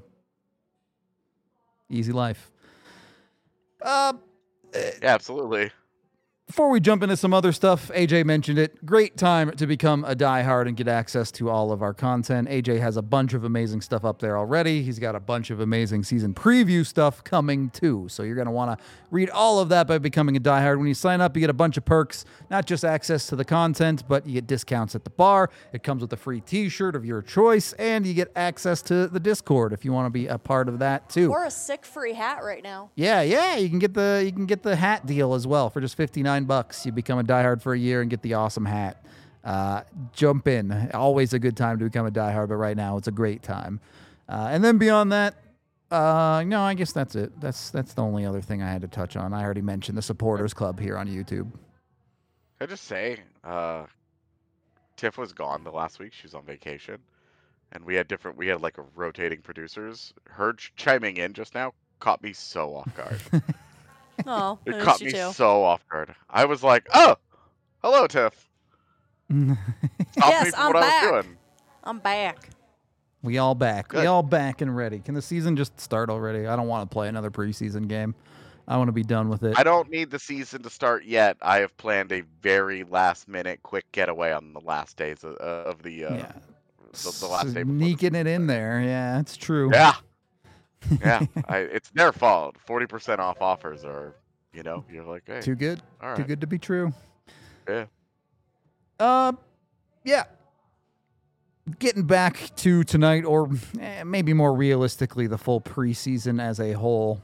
easy life. Uh, Yeah, absolutely. Before we jump into some other stuff, A J mentioned it. Great time to become a diehard and get access to all of our content. A J has a bunch of amazing stuff up there already. He's got a bunch of amazing season preview stuff coming too. So you're going to want to read all of that by becoming a diehard. When you sign up, you get a bunch of perks, not just access to the content, but you get discounts at the bar. It comes with a free t-shirt of your choice, and you get access to the Discord if you want to be a part of that too. Or a sick free hat right now. Yeah, yeah, you can get the you can get the hat deal as well for just fifty-nine bucks. You become a diehard for a year and get the awesome hat. Uh, jump in. Always a good time to become a diehard, but right now it's a great time. Uh, and then beyond that, uh, no, I guess that's it. That's that's the only other thing I had to touch on. I already mentioned the supporters club here on YouTube. Can I just say, uh, Tiff was gone the last week. She was on vacation, and we had different. We had like a rotating producers. Her ch- chiming in just now caught me so off guard. Oh, It I caught missed me you too. so off guard. I was like, "Oh, hello, Tiff." Stop Yes, me from I'm what back. I was doing. I'm back. We all back. We Good. all back and ready. Can the season just start already? I don't want to play another preseason game. I want to be done with it. I don't need the season to start yet. I have planned a very last-minute, quick getaway on the last days of, uh, of the, uh, yeah. the the last day. before the Sneaking it season in starts. there. Yeah, it's true. Yeah, yeah. I, it's their fault. Forty percent off offers are, you know, you're like, hey, Too good. all right, Too good to be true. yeah. Uh, yeah. Getting back to tonight, or eh, maybe more realistically, the full preseason as a whole.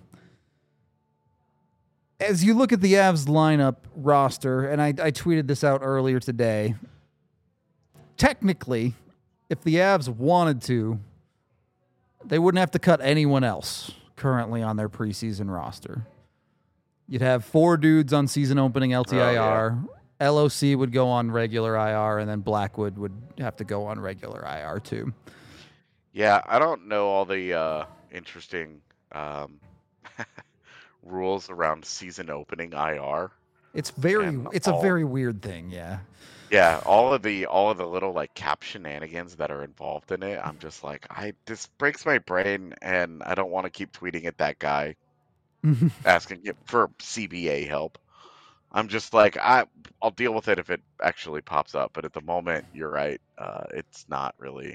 As you look at the Avs lineup roster, and I, I tweeted this out earlier today, technically, if the Avs wanted to, they wouldn't have to cut anyone else currently on their preseason roster. You'd have four dudes on season opening L T I R. Oh, L O C would go on regular I R, and then Blackwood would have to go on regular I R too. Yeah, I don't know all the uh, interesting um, rules around season opening I R. It's very, And it's a all- very weird thing, yeah. Yeah, all of the all of the little like cap shenanigans that are involved in it. I'm just like, I this breaks my brain, and I don't want to keep tweeting at that guy asking him for C B A help. I'm just like, I I'll deal with it if it actually pops up. But at the moment, you're right. Uh, it's not really.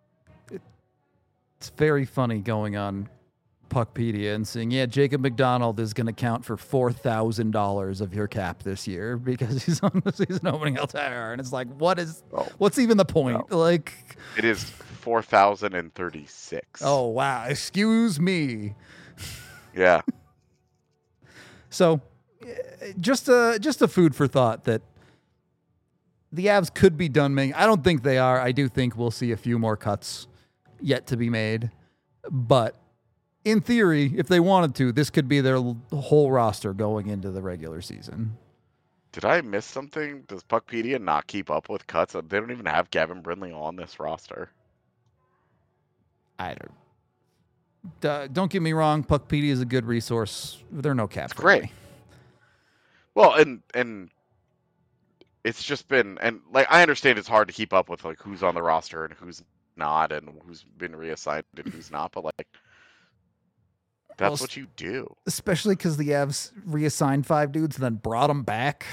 It's very funny going on Puckpedia and seeing, yeah, Jacob McDonald is going to count for four thousand dollars of your cap this year because he's on the season opening L T I R. And it's like, what is, Oh, what's even the point? Like, it is four thousand and thirty-six. oh, wow, excuse me. yeah. So, eh, just a just a food for thought that the Avs could be done making. I don't think they are. I do think we'll see a few more cuts yet to be made. But in theory, if they wanted to, this could be their l- whole roster going into the regular season. Did I miss something? Does Puckpedia not keep up with cuts? They don't even have Gavin Brindley on this roster. I don't. Uh, don't get me wrong. Puckpedia is a good resource. They're no cap. It's great. Well, and and it's just been and like I understand it's hard to keep up with like who's on the roster and who's not and who's been reassigned and who's not, but like that's Well, what you do. Especially because the Avs reassigned five dudes and then brought them back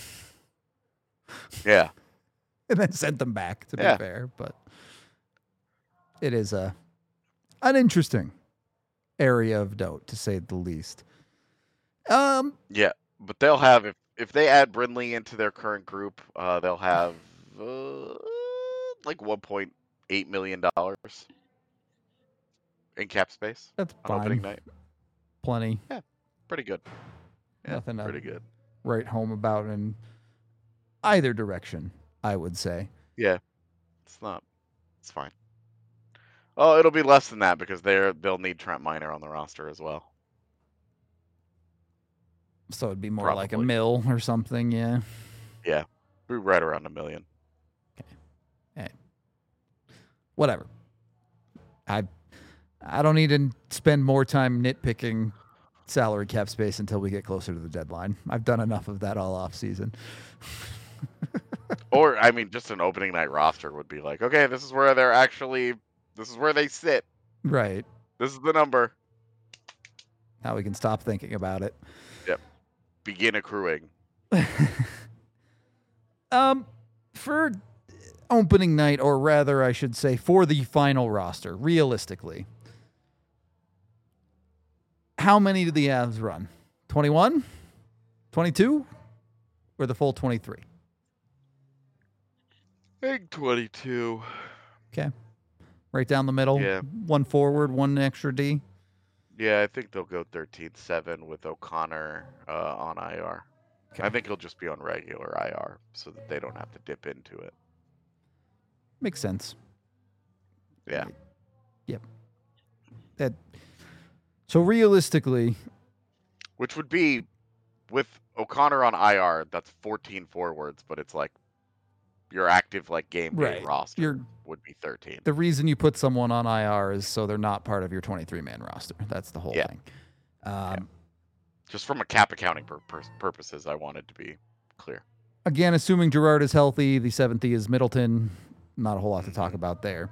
Yeah. and then sent them back. To Yeah. be fair, but it is a an interesting area of note, to say the least. Um, Yeah, but they'll have if if they add Brindley into their current group, uh, they'll have uh, like one point eight million dollars in cap space that's on opening fine. night. Plenty. Pretty good. Yeah, Nothing to pretty good. write home about in either direction, I would say. Yeah, it's not. It's fine. Oh, it'll be less than that because they're they'll need Trent Miner on the roster as well. So it'd be more like a Probably. mill or something, yeah. We're right around a million. Whatever. I I don't need to spend more time nitpicking salary cap space until we get closer to the deadline. I've done enough of that all off season. Or I mean, just an opening night roster would be like, okay, this is where they're actually, this is where they sit. Right. This is the number. Now we can stop thinking about it. Yep. Begin accruing. um, for opening night, or rather, I should say, for the final roster, realistically, how many do the Avs run? twenty-one? twenty-two? Or the full twenty-three? I think twenty-two. Okay. Right down the middle. Yeah. One forward, one extra D. Yeah, I think they'll go thirteen seven with O'Connor uh, on I R. Okay. I think he'll just be on regular I R so that they don't have to dip into it. Makes sense. Yeah. Yep. That. So realistically, Which would be, with O'Connor on I R, that's fourteen forwards, but it's like your active like game day Right. roster You're- would be thirteen. the reason you put someone on I R is so they're not part of your twenty-three man roster. That's the whole Yeah. thing. Um, Just from a cap accounting pur- pur- purposes, I wanted to be clear. Again, assuming Gerard is healthy, the seventh E is Middleton. Not a whole lot to talk about there.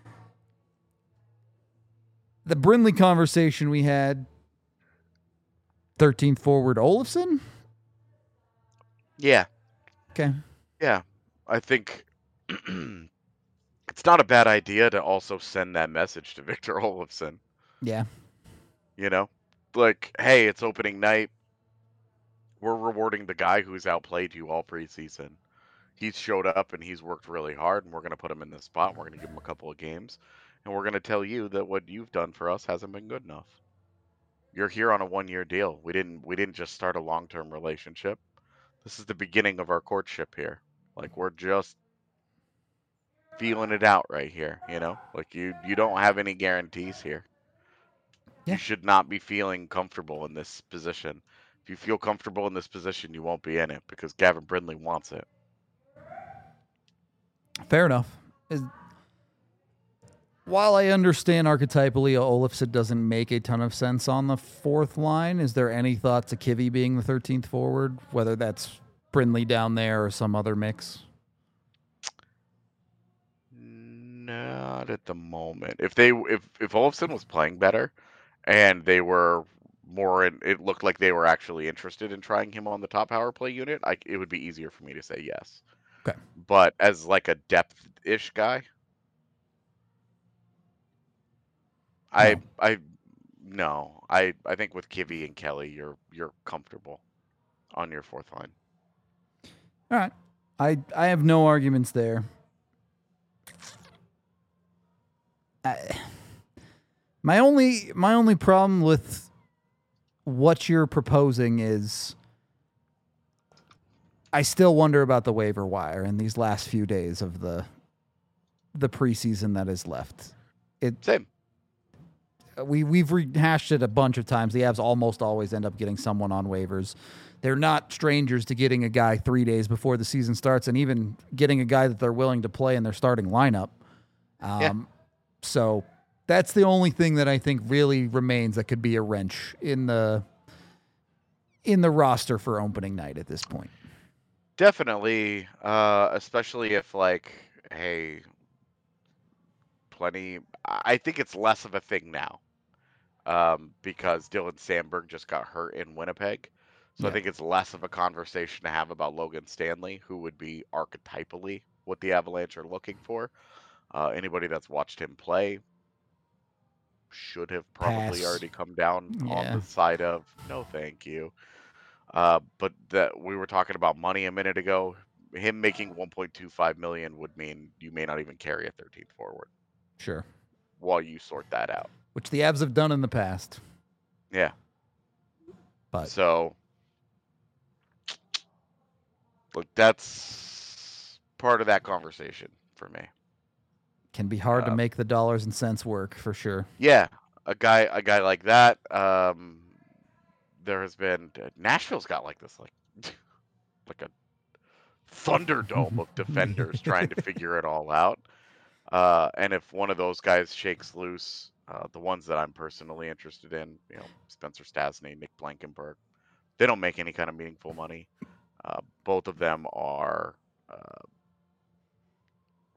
The Brindley conversation we had, thirteenth forward Olofsson? Yeah. Okay. Yeah. I think it's not a bad idea to also send that message to Victor Olofsson. Yeah. You know, like, hey, it's opening night. We're rewarding the guy who's outplayed you all preseason. He's showed up and he's worked really hard, and we're going to put him in this spot. We're going to give him a couple of games, and we're going to tell you that what you've done for us hasn't been good enough. You're here on a one-year deal. We didn't we didn't just start a long-term relationship. This is the beginning of our courtship here. Like, we're just feeling it out right here, you know? Like, you you don't have any guarantees here. Yeah. You should not be feeling comfortable in this position. If you feel comfortable in this position, you won't be in it because Gavin Brindley wants it. Fair enough. Is, while I understand archetypally Olofsson doesn't make a ton of sense on the fourth line, is there any thought to Kivy being the thirteenth forward, whether that's Brindley down there or some other mix? Not at the moment. If they if if Olofsson was playing better and they were more in, it looked like they were actually interested in trying him on the top power play unit, I, it would be easier for me to say yes. Okay. But as like a depth-ish guy, I No. I no. I I think with Kivy and Kelly, you're you're comfortable on your fourth line. All right. I I have no arguments there. I, my only my only problem with what you're proposing is I still wonder about the waiver wire in these last few days of the the preseason that is left. It Same. we we've rehashed it a bunch of times. The Avs almost always end up getting someone on waivers. They're not strangers to getting a guy three days before the season starts, and even getting a guy that they're willing to play in their starting lineup. Um, Yeah. So that's the only thing that I think really remains that could be a wrench in the in the roster for opening night at this point. Definitely, uh, especially if like, hey, plenty. I I think it's less of a thing now, um, because Dylan Sandberg just got hurt in Winnipeg, so Yeah. I think it's less of a conversation to have about Logan Stanley, who would be archetypally what the Avalanche are looking for. Uh, anybody that's watched him play should have probably Pass. already come down Yeah. on the side of no, thank you. Uh, but that we were talking about money a minute ago. Him making one point two five million would mean you may not even carry a thirteenth forward Sure. while you sort that out. Which the Avs have done in the past. Yeah. But So, look, that's part of that conversation for me. can be hard to Uh, make the dollars and cents work for sure. Yeah, a guy, a guy like that. Um, there has been Nashville's got like this, like, like a Thunderdome of defenders trying to figure it all out. Uh, and if one of those guys shakes loose, uh, the ones that I'm personally interested in, you know, Spencer Stastny, Nick Blankenberg, they don't make any kind of meaningful money. Uh, both of them are uh,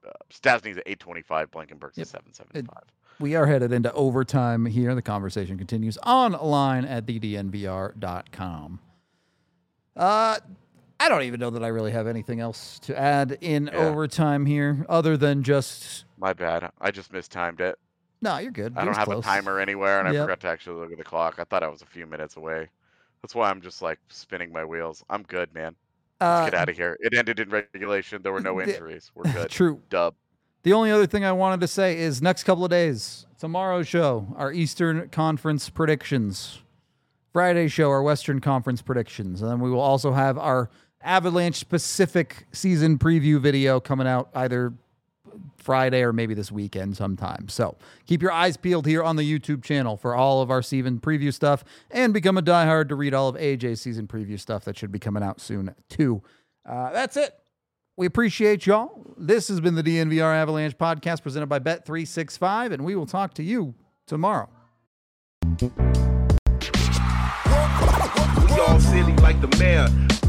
uh, Stasny's at eight twenty-five. Blankenberg's Yep. at seven seventy-five. We are headed into overtime here. The conversation continues online at the D N V R dot com. Uh, I don't even know that I really have anything else to add in Yeah. overtime here, other than just My bad. I just mistimed it. no, you're good. I It don't was have close. a timer anywhere, and I Yep. forgot to actually look at the clock. I thought I was a few minutes away. That's why I'm just like spinning my wheels. I'm good, man. Let's Uh, get out of here. It ended in regulation. There were no the- injuries. We're good. True. Dub. The only other thing I wanted to say is next couple of days, tomorrow's show, our Eastern Conference predictions. Friday show, our Western Conference predictions. And then we will also have our Avalanche specific season preview video coming out either Friday or maybe this weekend sometime. So keep your eyes peeled here on the YouTube channel for all of our season preview stuff, and become a diehard to read all of A J's season preview stuff that should be coming out soon too. Uh, that's it. We appreciate y'all. This has been the D N V R Avalanche podcast presented by Bet three sixty-five, and we will talk to you tomorrow. We all silly like the mayor.